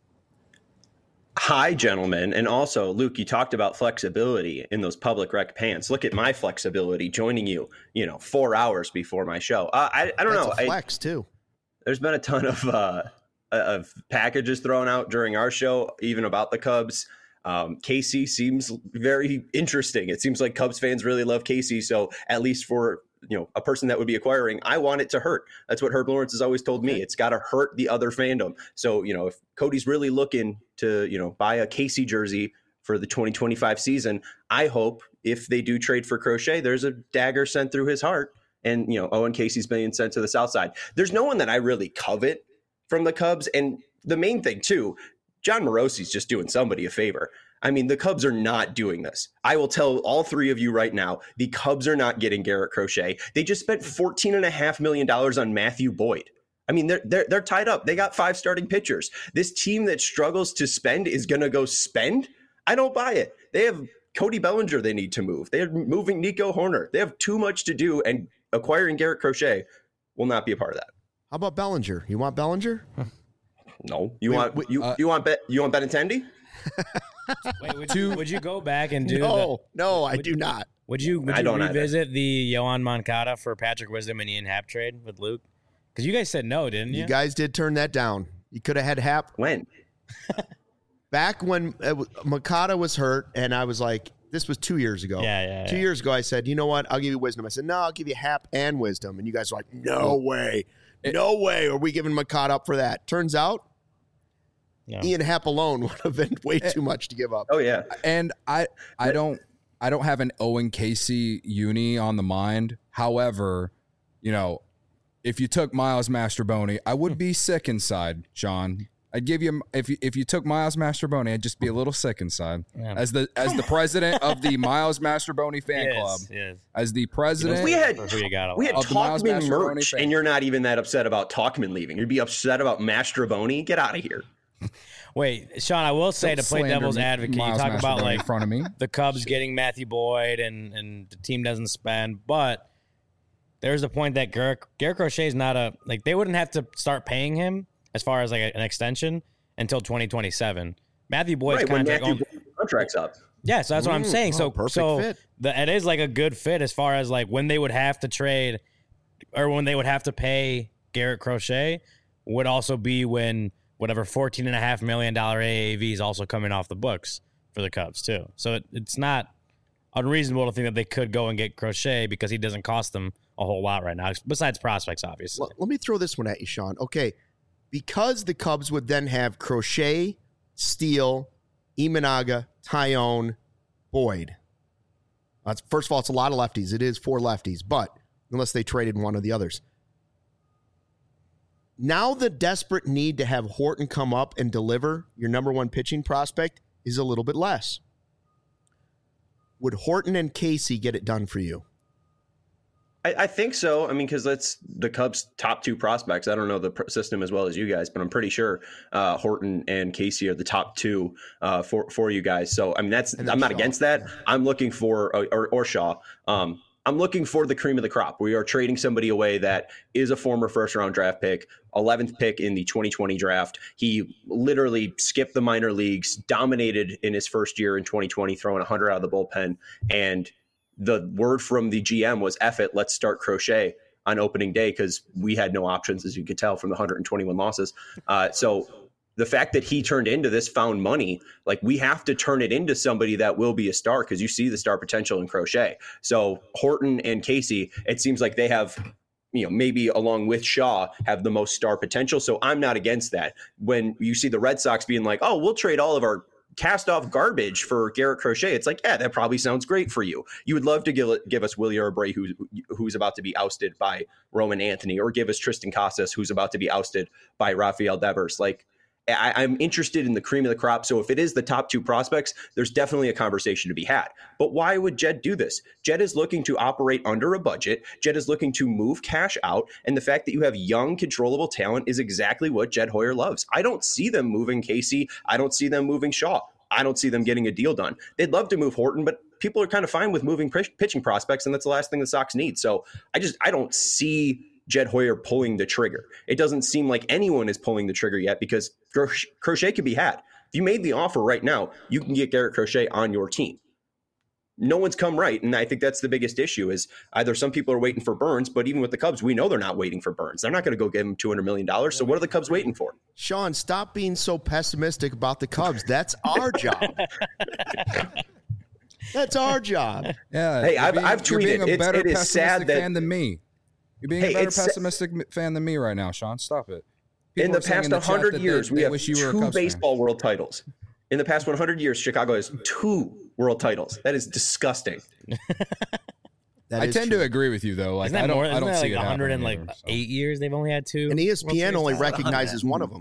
Hi, gentlemen. And also, Luke, you talked about flexibility in those public rec pants. Look at my flexibility joining you, 4 hours before my show. I don't know. That's a flex, too. There's been a ton of packages thrown out during our show, even about the Cubs. Casey seems very interesting. It seems like Cubs fans really love Casey. So at least for a person that would be acquiring, I want it to hurt. That's what Herb Lawrence has always told me. It's got to hurt the other fandom. So if Cody's really looking to buy a Casey jersey for the 2025 season, I hope if they do trade for Crochet, there's a dagger sent through his heart, and Owen Casey's being sent to the South Side. There's no one that I really covet from the Cubs, and the main thing too, John Morosi's just doing somebody a favor. I mean, the Cubs are not doing this. I will tell all three of you right now, the Cubs are not getting Garrett Crochet. They just spent $14.5 million on Matthew Boyd. I mean, they're tied up. They got 5 starting pitchers. This team that struggles to spend is going to go spend? I don't buy it. They have Cody Bellinger they need to move. They're moving Nico Horner. They have too much to do, and acquiring Garrett Crochet will not be a part of that. How about Bellinger? You want Bellinger? No. You want Benintendi? Wait, would you go back and do No, I do not. Would you revisit the Yohan Moncada for Patrick Wisdom and Ian Happ trade with Luke? Because you guys said no, didn't you? You guys did turn that down. You could have had Happ. When? Back when Moncada was hurt, and I was like, this was 2 years ago. Yeah. 2 years ago, I said, you know what? I'll give you Wisdom. I said, no, I'll give you Happ and Wisdom. And you guys were like, no way. No way are we giving Moncada up for that. Turns out, Ian Happ alone would have been way too much to give up. Oh, yeah. And I don't have an Owen Casey uni on the mind. However, if you took Miles Mastrobuoni, I would be sick inside, Sean. I'd give you if you took Miles Mastrobuoni, I'd just be a little sick inside. Yeah. As the president of the Miles Mastrobuoni fan club. Yes. As the president, we had Talkman merch, and you're not even that upset about Talkman leaving. You'd be upset about Mastrobuoni. Get out of here. Wait, Sean, I will say, to play devil's advocate, you talk about like in front of me. The Cubs getting Matthew Boyd and the team doesn't spend, but there's a point that Garrett Crochet is not they wouldn't have to start paying him as far as like an extension until 2027. Matthew Boyd's contract's up. Yeah, so that's what I'm saying. So fit. It is like a good fit as far as like when they would have to trade or when they would have to pay Garrett Crochet would also be when whatever $14.5 million AAV is also coming off the books for the Cubs too. So it's not unreasonable to think that they could go and get Crochet because he doesn't cost them a whole lot right now, besides prospects, obviously. Well, let me throw this one at you, Sean. Okay, because the Cubs would then have Crochet, Steele, Imanaga, Tyone, Boyd. First of all, it's a lot of lefties. It is 4 lefties, but unless they traded one of the others. Now the desperate need to have Horton come up and deliver your number one pitching prospect is a little bit less. Would Horton and Casey get it done for you? I think so. I mean, because that's the Cubs' top 2 prospects. I don't know the system as well as you guys, but I'm pretty sure Horton and Casey are the top 2 for you guys. So, I mean, I'm not against that. I'm looking for, or Shaw. I'm looking for the cream of the crop. We are trading somebody away that is a former first-round draft pick, 11th pick in the 2020 draft. He literally skipped the minor leagues, dominated in his first year in 2020, throwing 100 out of the bullpen, and the word from the GM was, F it, let's start Crochet on opening day because we had no options, as you could tell from the 121 losses. So the fact that he turned into this found money, like we have to turn it into somebody that will be a star because you see the star potential in Crochet. So Horton and Casey, it seems like they have, maybe along with Shaw, have the most star potential. So I'm not against that. When you see the Red Sox being like, oh, we'll trade all of our cast off garbage for Garrett Crochet, it's like, yeah, that probably sounds great for you. You would love to give us Willie Abreu, who's about to be ousted by Roman Anthony, or give us Tristan Casas, who's about to be ousted by Rafael Devers. Like, I'm interested in the cream of the crop. So if it is the top 2 prospects, there's definitely a conversation to be had. But why would Jed do this? Jed is looking to operate under a budget. Jed is looking to move cash out. And the fact that you have young, controllable talent is exactly what Jed Hoyer loves. I don't see them moving Casey. I don't see them moving Shaw. I don't see them getting a deal done. They'd love to move Horton, but people are kind of fine with moving pitching prospects, and that's the last thing the Sox need. So I don't see Jed Hoyer pulling the trigger. It doesn't seem like anyone is pulling the trigger yet because Crochet could be had. If you made the offer right now, you can get Garrett Crochet on your team. No one's come right, and I think that's the biggest issue is either some people are waiting for Burns, but even with the Cubs, we know they're not waiting for Burns. They're not going to go give him $200 million, so what are the Cubs waiting for? Sean, stop being so pessimistic about the Cubs. That's our job. That's our job. Yeah. Hey, I've tweeted. You're being a better it is pessimistic sad fan than me. You're being a better pessimistic fan than me right now, Sean. Stop it. In the past 100 years, we have 2 baseball world titles. In the past 100 years, Chicago has 2 world titles. That is disgusting. I tend to agree with you, though. Like, I don't see it 108 years they've only had 2. And ESPN only recognizes one of them.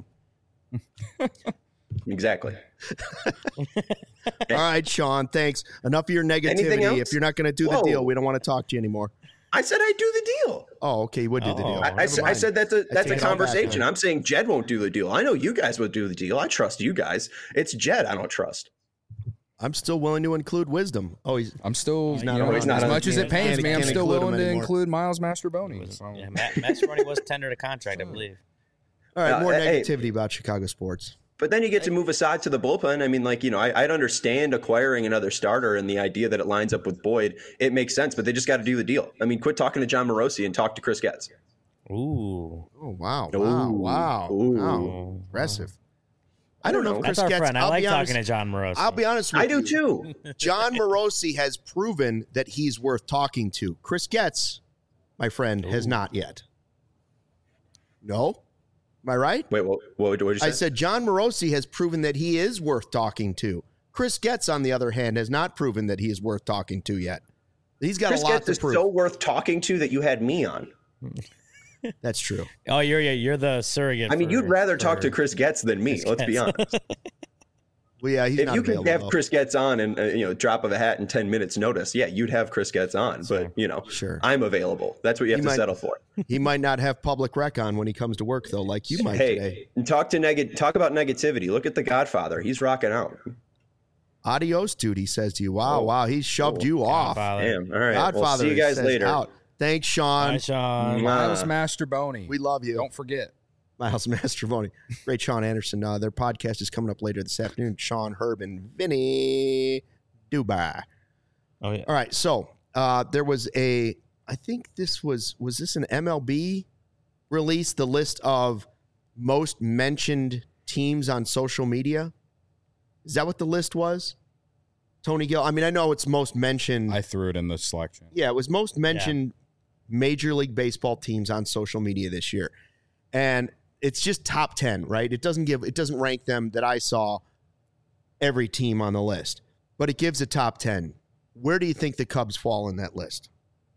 Exactly. All right, Sean, thanks. Enough of your negativity. If you're not going to do the deal, we don't want to talk to you anymore. I said I'd do the deal. Oh, okay, you would do the deal. I said that's a conversation. I'm saying Jed won't do the deal. I know you guys would do the deal. I trust you guys. It's Jed I don't trust. I'm still willing to include Wisdom. I'm still, he's not you know, on as it. much as it pains me, I'm Can't still include him willing to anymore. include Miles Mastrobuoni. So. Yeah, Mastrobuoni was tendered a contract, I believe. All right, more Hey. negativity about Chicago sports. But then you get to move aside to the bullpen. I mean, like, you know, I'd understand acquiring another starter and the idea that it lines up with Boyd. It makes sense, but they just got to do the deal. I mean, quit talking to John Morosi and talk to Chris Getz. Ooh. Oh, wow. Ooh. Wow. Ooh. Wow. Impressive. I don't know if That's Chris our Getz. friend. I I'll like be honest, talking to John Morosi. I'll be honest with I you. do too. John Morosi has proven that he's worth talking to. Chris Getz, my friend, has not yet. No? Am I right? Wait, what did you say? I said John Morosi has proven that he is worth talking to. Chris Getz, on the other hand, has not proven that he is worth talking to yet. He's got Chris a lot Getz to is prove. so worth talking to that you had me on. That's true. Oh, you're the surrogate. I mean, you'd rather talk to Chris Getz than me. Let's be honest. Well, yeah, he's If not you can available. have though. Chris Getz on and drop of a hat in 10 minutes notice, yeah, you'd have Chris Getz on. But Sure. I'm available. That's what you have to might- settle for. He might not have public rec on when he comes to work, though, like you might today. Hey, and talk about negativity. Look at The Godfather. He's rocking out. Adios, dude, he says to you. Wow, he shoved you off. Damn. All right. Godfather We'll see you guys says later. out. Thanks, Sean. Hi, Sean. Miles Mastrobuoni. We love you. Don't forget. Miles Mastrobuoni. Great Sean Anderson. Their podcast is coming up later this afternoon. Sean, Herb, and Vinny Dubai. Oh, yeah. All right, so there was I think this was this an MLB release, the list of most mentioned teams on social media? Is that what the list was? Tony Gill. I mean, I know it's most mentioned. I threw it in the Slack channel. Yeah, it was most mentioned Major League Baseball teams on social media this year. And it's just top 10, right? It doesn't rank them that I saw every team on the list, but it gives a top 10. Where do you think the Cubs fall in that list?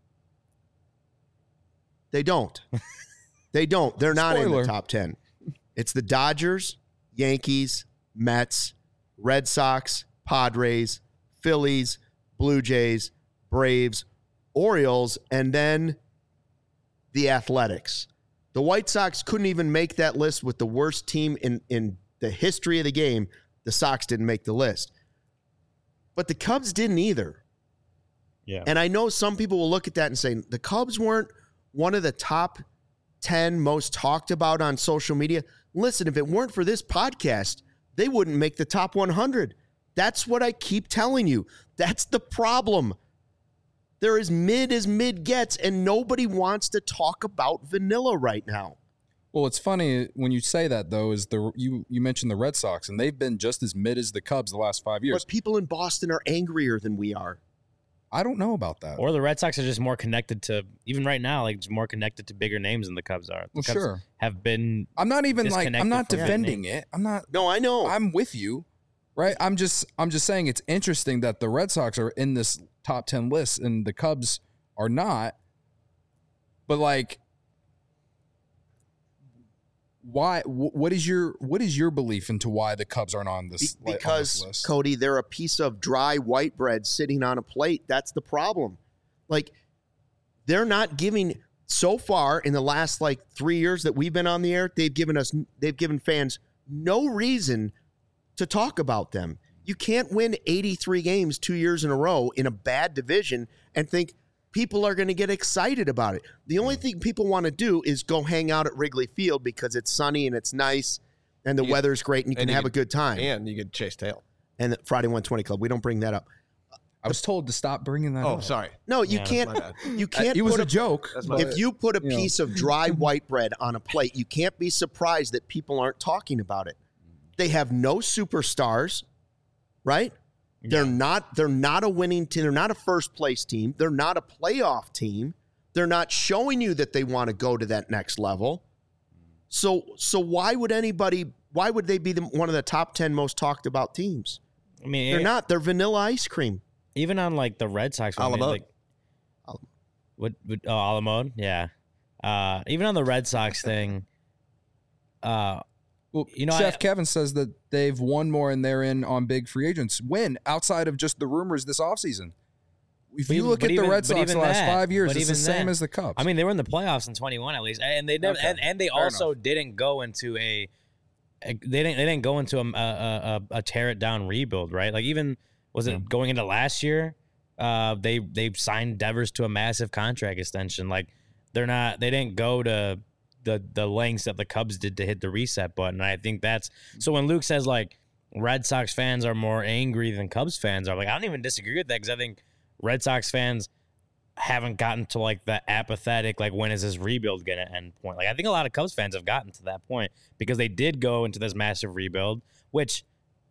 They don't. They don't. They're not in the Spoiler. top 10. It's the Dodgers, Yankees, Mets, Red Sox, Padres, Phillies, Blue Jays, Braves, Orioles, and then the Athletics. The White Sox couldn't even make that list with the worst team in the history of the game. The Sox didn't make the list. But the Cubs didn't either. Yeah. And I know some people will look at that and say, the Cubs weren't one of the top 10 most talked about on social media. Listen, if it weren't for this podcast, they wouldn't make the top 100. That's what I keep telling you. That's the problem. They're as mid gets, and nobody wants to talk about vanilla right now. Well, it's funny when you say that, though, is you mentioned the Red Sox, and they've been just as mid as the Cubs the last 5 years. But people in Boston are angrier than we are. I don't know about that. Or the Red Sox are just more connected to, even right now, like just more connected to bigger names than the Cubs are. The Well, Cubs sure. have been. I'm not even disconnected I'm not from that defending it. I'm not. No, I know. I'm with you, right? I'm just saying it's interesting that the Red Sox are in this top 10 list and the Cubs are not. But like, why? What is your belief into why the Cubs aren't on this? Because, on this list? Cody, they're a piece of dry white bread sitting on a plate. That's the problem. Like, they're not giving, so far in the last 3 years that we've been on the air, they've given fans no reason to talk about them. You can't win 83 games 2 years in a row in a bad division and think people are going to get excited about it. The only thing people want to do is go hang out at Wrigley Field because it's sunny and it's nice and the weather's great and you can have a good time. And you could chase tail. And the Friday 120 Club, we don't bring that up. I was told to stop bringing that. Oh, up. sorry. No, you Yeah, can't. my bad. You can't. It was put a joke. That's my If you put a You know. piece of dry white bread on a plate, you can't be surprised that people aren't talking about it. They have no superstars, right? They're not a winning team. They're not a first place team. They're not a playoff team. They're not showing you that they want to go to that next level. So why would they be one of the top 10 most talked about teams? I mean, They're not. They're vanilla ice cream. even on like the Red Sox. one, Alamode. Like, Alamode? Yeah. Even on the Red Sox thing. Well, You know, Chef Kevin says that they've won more and they're in on big free agents. When outside of just the rumors this offseason. If But you even- look but at the even- Red but Sox the even last that- 5 years, but it's the even same that- as the Cubs. I mean, they were in the playoffs in 21 at least, and they never, Okay. and they Fair also didn't go into they didn't go into a tear it down rebuild, right? Like even Was it going into last year? They signed Devers to a massive contract extension. Like they didn't go to the lengths that the Cubs did to hit the reset button. And I think that's so when Luke says like Red Sox fans are more angry than Cubs fans are, like I don't even disagree with that because I think Red Sox fans haven't gotten to like the apathetic, like when is this rebuild going to end point. Like I think a lot of Cubs fans have gotten to that point because they did go into this massive rebuild, which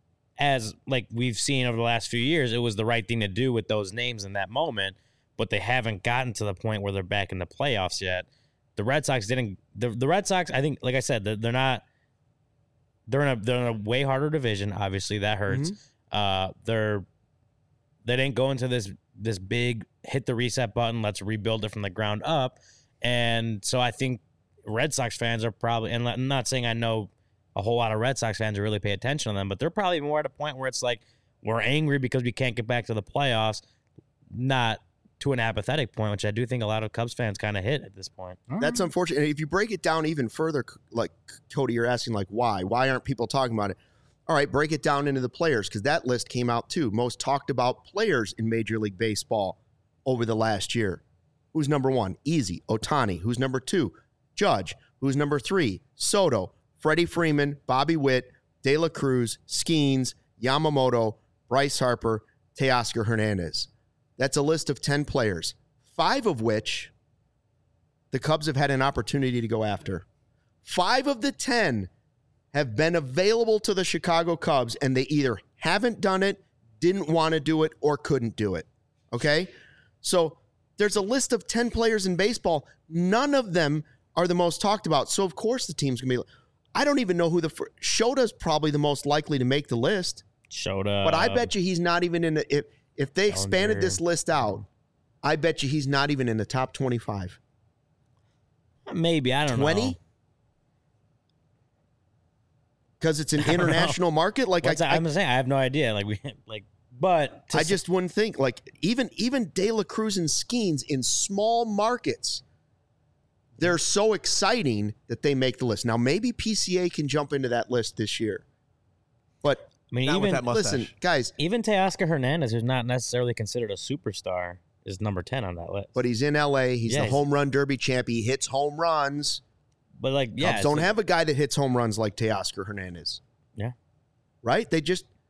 as like we've seen over the last few years, it was the right thing to do with those names in that moment, but they haven't gotten to the point where they're back in the playoffs yet. The Red Sox didn't. The Red Sox, I think, like I said, they're not. They're in a way harder division. Obviously, that hurts. They didn't go into this big hit the reset button. Let's rebuild it from the ground up. And so I think Red Sox fans are probably. And I'm not saying I know a whole lot of Red Sox fans who really pay attention to them, but they're probably more at a point where it's like we're angry because we can't get back to the playoffs, not to an apathetic point, which I do think a lot of Cubs fans kind of hit at this point. That's unfortunate. If you break it down even further, like Cody, you're asking like why? Why aren't people talking about it? All right, break it down into the players because that list came out too. Most talked about players in Major League Baseball over the last year. Who's number one? Easy. Ohtani. Who's number two? Judge. Who's number three? Soto. Freddie Freeman, Bobby Witt, De La Cruz, Skeens, Yamamoto, Bryce Harper, Teoscar Hernandez. That's a list of 10 players, 5 of which the Cubs have had an opportunity to go after. 5 of the 10 have been available to the Chicago Cubs, and they either haven't done it, didn't want to do it, or couldn't do it. Okay? So there's a list of 10 players in baseball. None of them are the most talked about. So, of course, the team's going to be I don't even know who Shota's probably the most likely to make the list. Shota. But I bet you he's not even in the if they expanded this list out, I bet you he's not even in the top 25. Maybe, I don't know. 20? Because it's an international market. Like I'm saying, I have no idea. But I just wouldn't think even De La Cruz and Skeens in small markets, they're so exciting that they make the list. Now maybe PCA can jump into that list this year, but I mean, even that mustache. Listen, guys, even Teoscar Hernandez, who's not necessarily considered a superstar, is number 10 on that list. But he's in LA. He's the home run derby champ. He hits home runs. But Cubs don't have a guy that hits home runs like Teoscar Hernandez. Yeah. Right? They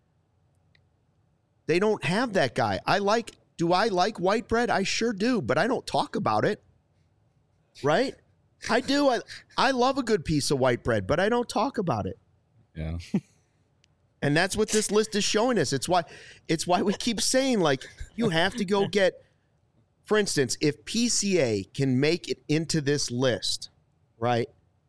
don't have that guy. Do I like white bread? I sure do, but I don't talk about it. Right? I do. I love a good piece of white bread, but I don't talk about it. Yeah. And that's what this list is showing us. It's why we keep saying, you have to go get, for instance, if PCA can make it into this list, right?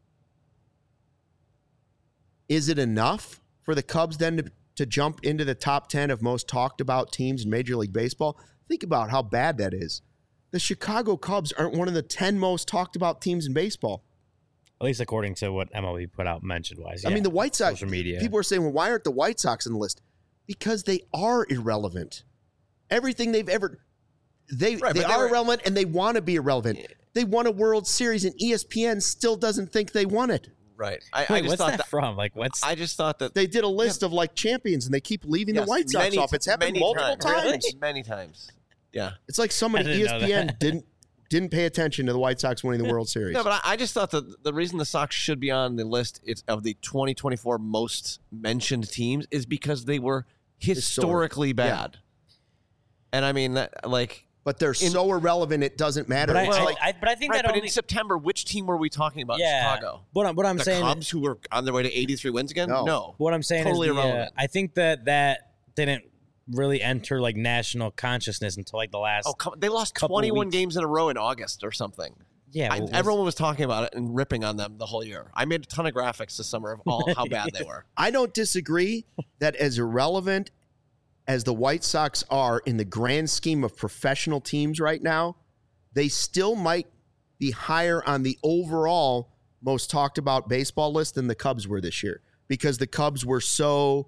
Is it enough for the Cubs then to jump into the top 10 of most talked about teams in Major League Baseball? Think about how bad that is. The Chicago Cubs aren't one of the 10 most talked about teams in baseball. At least according to what MLB put out mentioned-wise. I mean, the White Sox, social media. People are saying, well, why aren't the White Sox on the list? Because they are irrelevant. Everything they've ever... They are irrelevant, and they want to be irrelevant. They won a World Series, and ESPN still doesn't think they won it. Right. What's that from? I just thought that... They did a list of, champions, and they keep leaving the White Sox off. It's happened multiple times. Really? Many times. Yeah. It's like somebody at ESPN didn't pay attention to the White Sox winning the World Series. No, but I just thought that the reason the Sox should be on the list of the 2024 most mentioned teams is because they were historically bad. Yeah. And I mean, but they're so irrelevant, it doesn't matter. But I think that in September, which team were we talking about in Chicago? What I'm saying, the Cubs, who were on their way to 83 wins again? No. What I'm saying totally is, irrelevant. I think that didn't really enter national consciousness until the last. They lost 21 games in a row in August or something. Yeah, everyone was talking about it and ripping on them the whole year. I made a ton of graphics this summer of how bad they were. I don't disagree that as irrelevant as the White Sox are in the grand scheme of professional teams right now, they still might be higher on the overall most talked about baseball list than the Cubs were this year because the Cubs were so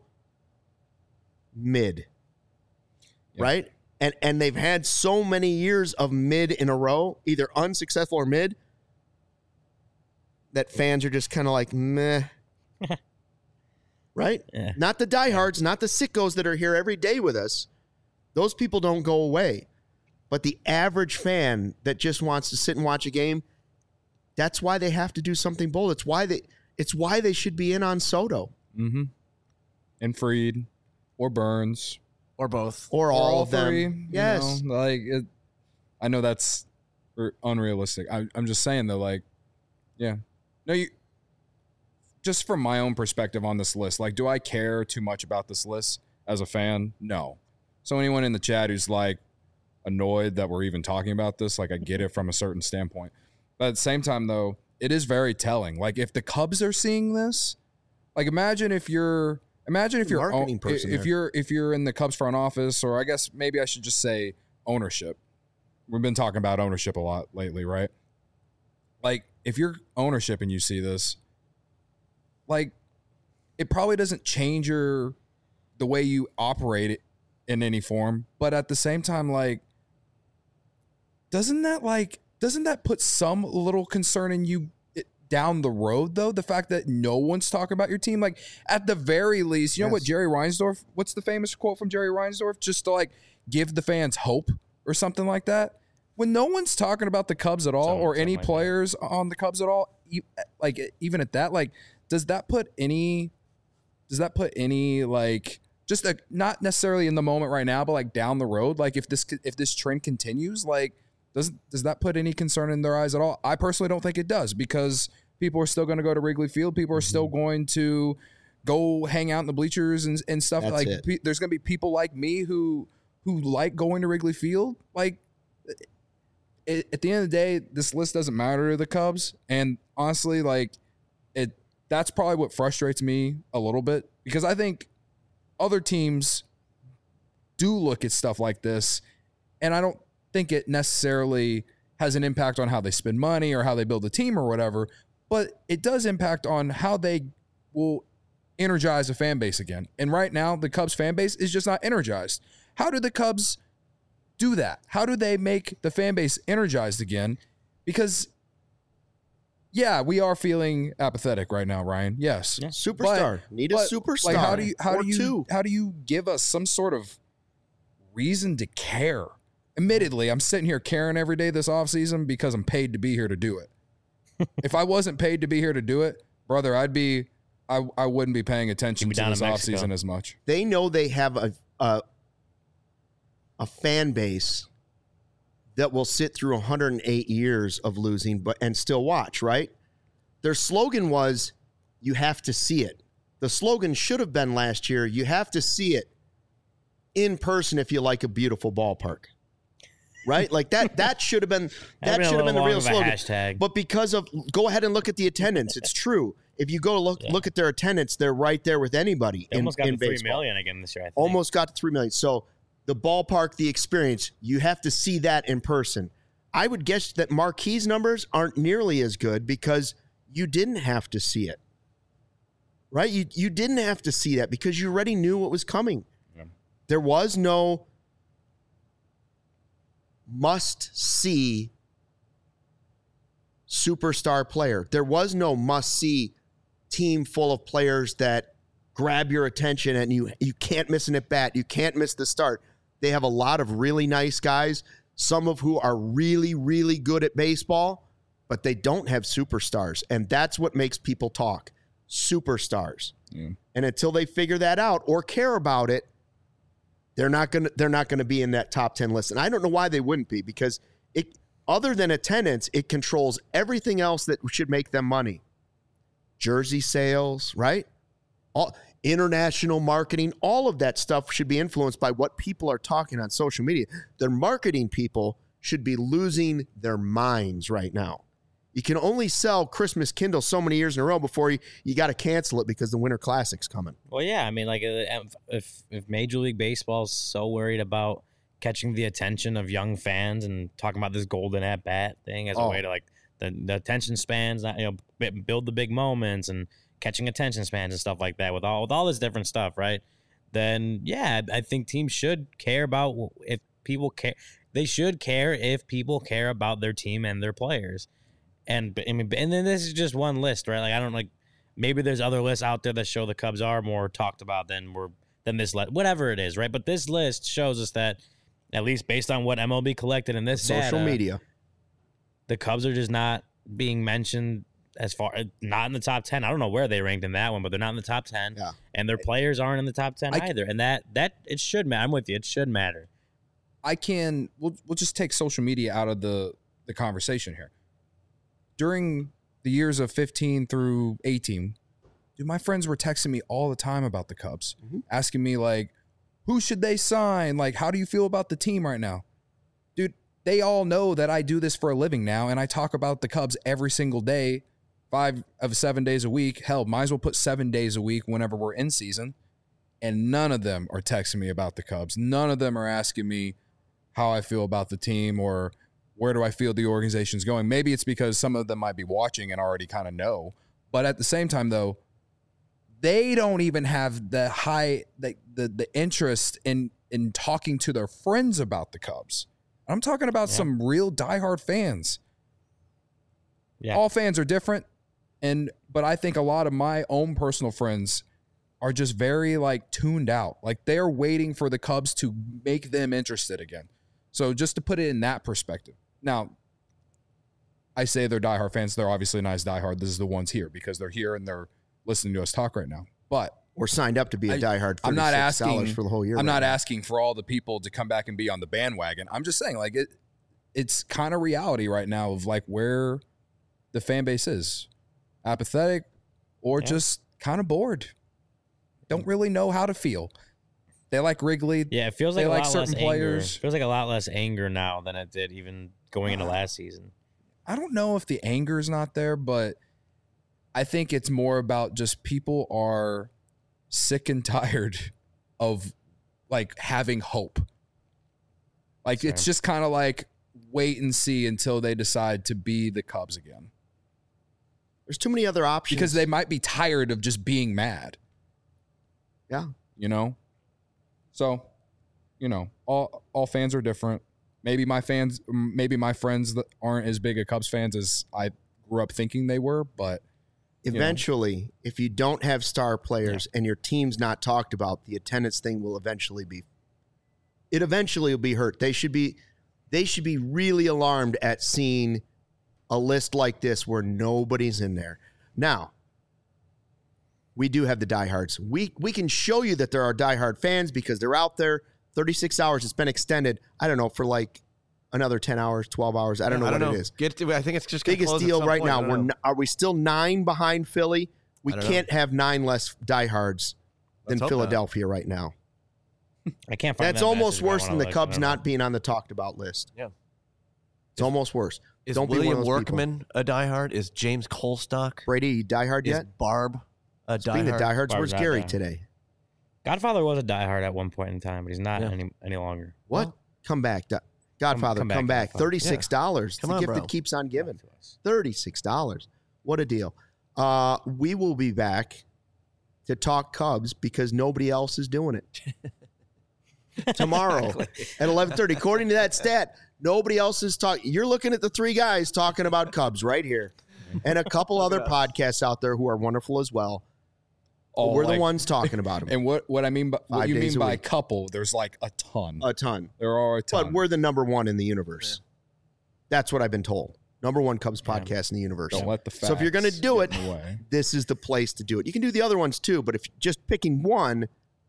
mid. Right? And they've had so many years of mid in a row, either unsuccessful or mid, that fans are just kind of meh. Right? Yeah. Not the diehards, not the sickos that are here every day with us, Those people don't go away. But the average fan that just wants to sit and watch a game, that's why they have to do something bold. It's why they should be in on Soto. Mm-hmm. And Fried or Burns. Or both. Or all of them. Three, Yes. You know, I know that's unrealistic. I'm just saying, though, like, yeah. No, just from my own perspective on this list, like, do I care too much about this list as a fan? No. So anyone in the chat who's, like, annoyed that we're even talking about this, like, I get it from a certain standpoint. But at the same time, though, it is very telling. Like, if the Cubs are seeing this, like, imagine if you're Marketing person if you're in the Cubs front office, or I guess maybe I should just say ownership. We've been talking about ownership a lot lately, right? Like, if you're ownership and you see this, like, it probably doesn't change the way you operate it in any form, but at the same time, like, doesn't that put some little concern in you down the road, though? The fact that no one's talking about your team, like, at the very least, you know what Jerry Reinsdorf, what's the famous quote from Jerry Reinsdorf? Just to, like, give the fans hope or something like that. When no one's talking about the Cubs at all, or any players on the Cubs at all, like, even at that, like, does that put any like, just not necessarily in the moment right now, but like down the road, like, if this trend continues, like, does that put any concern in their eyes at all? I personally don't think it does, because people are still going to go to Wrigley Field. People are still going to go hang out in the bleachers and stuff. That's like, it. There's going to be people like me who like going to Wrigley Field. Like, at the end of the day, this list doesn't matter to the Cubs. And honestly, like, that's probably what frustrates me a little bit, because I think other teams do look at stuff like this, and I don't think it necessarily has an impact on how they spend money or how they build a team or whatever, but it does impact on how they will energize a fan base again. And right now, the Cubs fan base is just not energized. How do the Cubs do that? How do they make the fan base energized again? Because, yeah, we are feeling apathetic right now, Ryan. Yes. Yeah. Superstar. Need a superstar. Like, how do you give us some sort of reason to care? Admittedly, I'm sitting here caring every day this offseason because I'm paid to be here to do it. If I wasn't paid to be here to do it, brother, I wouldn't be paying attention to this offseason as much. They know they have a fan base that will sit through 108 years of losing and still watch, right? Their slogan was, you have to see it. The slogan should have been last year, you have to see it in person if you like a beautiful ballpark. Right? Like that should have been the real slogan. Hashtag. But because of, go ahead and look at the attendance. It's true. If you go look at their attendance, they're right there with anybody. They almost got to 3 baseball. million again this year, I think. Almost got to 3 million. So the ballpark, the experience, you have to see that in person. I would guess that Marquee's numbers aren't nearly as good because you didn't have to see it. Right? You didn't have to see that because you already knew what was coming. Yeah. There was no must-see superstar player. There was no must-see team full of players that grab your attention and you can't miss an at-bat. You can't miss the start. They have a lot of really nice guys, some of who are really, really good at baseball, but they don't have superstars. And that's what makes people talk. Superstars. Yeah. And until they figure that out or care about it, they're not gonna be in that top 10 list. And I don't know why they wouldn't be, because it, other than attendance, it controls everything else that should make them money. Jersey sales, right? All international marketing, all of that stuff should be influenced by what people are talking on social media. Their marketing people should be losing their minds right now. You can only sell Christmas Kindle so many years in a row before you got to cancel it because the Winter Classic's coming. Well, yeah, I mean, like, if Major League Baseball is so worried about catching the attention of young fans and talking about this golden at bat thing as a way to, like, the attention spans, build the big moments and catching attention spans and stuff like that with all this different stuff, right? Then, yeah, I think teams should care about if people care. They should care if people care about their team and their players. And I mean, and then this is just one list, right? Like, I don't, like, maybe there's other lists out there that show the Cubs are more talked about than we're than this list, whatever it is, right? But this list shows us that, at least based on what MLB collected in this social data, media, the Cubs are just not being mentioned not in the top 10. I don't know where they ranked in that one, but they're not in the top 10. Yeah. And their players aren't in the top 10 either. And that it should matter. I'm with you. It should matter. We'll just take social media out of the conversation here. During the years of 15 through 18, dude, my friends were texting me all the time about the Cubs, asking me like, who should they sign? Like, how do you feel about the team right now? Dude, they all know that I do this for a living now, and I talk about the Cubs every single day, 5 of 7 days a week. Hell, might as well put 7 days a week whenever we're in season. And none of them are texting me about the Cubs. None of them are asking me how I feel about the team or where do I feel the organization's going. Maybe it's because some of them might be watching and already kind of know. But at the same time, though, they don't even have the interest in talking to their friends about the Cubs. I'm talking about some real diehard fans. Yeah. All fans are different, but I think a lot of my own personal friends are just very like tuned out. Like they're waiting for the Cubs to make them interested again. So just to put it in that perspective. Now, I say they're diehard fans. They're obviously not as diehard. This is the ones here because they're here and they're listening to us talk right now. But we're signed up to be a diehard. I'm not asking for the whole year. I'm not asking for all the people to come back and be on the bandwagon. I'm just saying, like it's kind of reality right now of like where the fan base is, apathetic, or just kind of bored. Don't really know how to feel. They like Wrigley. Yeah, it feels like they a like lot certain less players. Anger. It feels like a lot less anger now than it did even going into last season. I don't know if the anger is not there, but I think it's more about just people are sick and tired of like having hope. Like it's just kind of like wait and see until they decide to be the Cubs again. There's too many other options. Because they might be tired of just being mad. Yeah. You know? So, you know, all fans are different. Maybe my friends that aren't as big of Cubs fans as I grew up thinking they were, but eventually, if you don't have star players and your team's not talked about, the attendance thing will eventually be hurt. They should be really alarmed at seeing a list like this where nobody's in there. Now, we do have the diehards. We can show you that there are diehard fans because they're out there. 36 hours. It's been extended, I don't know, for like another 10 hours, 12 hours. I don't know what it is. I think it's just biggest deal right now. Are we still 9 behind Philly? We can't have 9 less diehards than Philadelphia right now. I can't find that's almost worse than the Cubs not being on the talked about list. Yeah. It's almost worse. Is William Workman a diehard? Is James Colstock? Brady diehard yet? Is Barb a diehard? Speaking of diehards, where's Gary today? Godfather was a diehard at one point in time, but he's not any longer. What? Well, come back. Godfather, come back. $36. Come the on, gift bro. that keeps on giving. $36. What a deal. We will be back to talk Cubs because nobody else is doing it. Tomorrow at 11:30. According to that stat, nobody else is talking. You're looking at the 3 guys talking about Cubs right here. And a couple other podcasts out there who are wonderful as well. We're the ones talking about them. And what I mean by what you mean by couple, there's like a ton. A ton. There are a ton. But we're the number 1 in the universe. Yeah. That's what I've been told. Number 1 Cubs podcast in the universe. Don't let the facts. So if you're going to do it, this is the place to do it. You can do the other ones too, but if just picking one,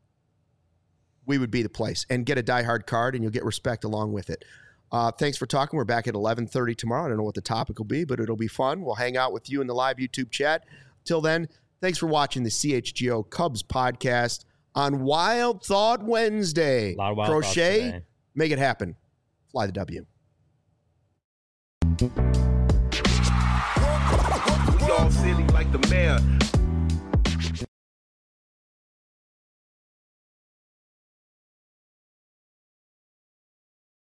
we would be the place. And get a diehard card, and you'll get respect along with it. Thanks for talking. We're back at 11:30 tomorrow. I don't know what the topic will be, but it'll be fun. We'll hang out with you in the live YouTube chat. Till then, thanks for watching the CHGO Cubs podcast on Wild Thought Wednesday. A lot of wild Crochet, make it happen. Fly the W. Y'all silly like the mayor.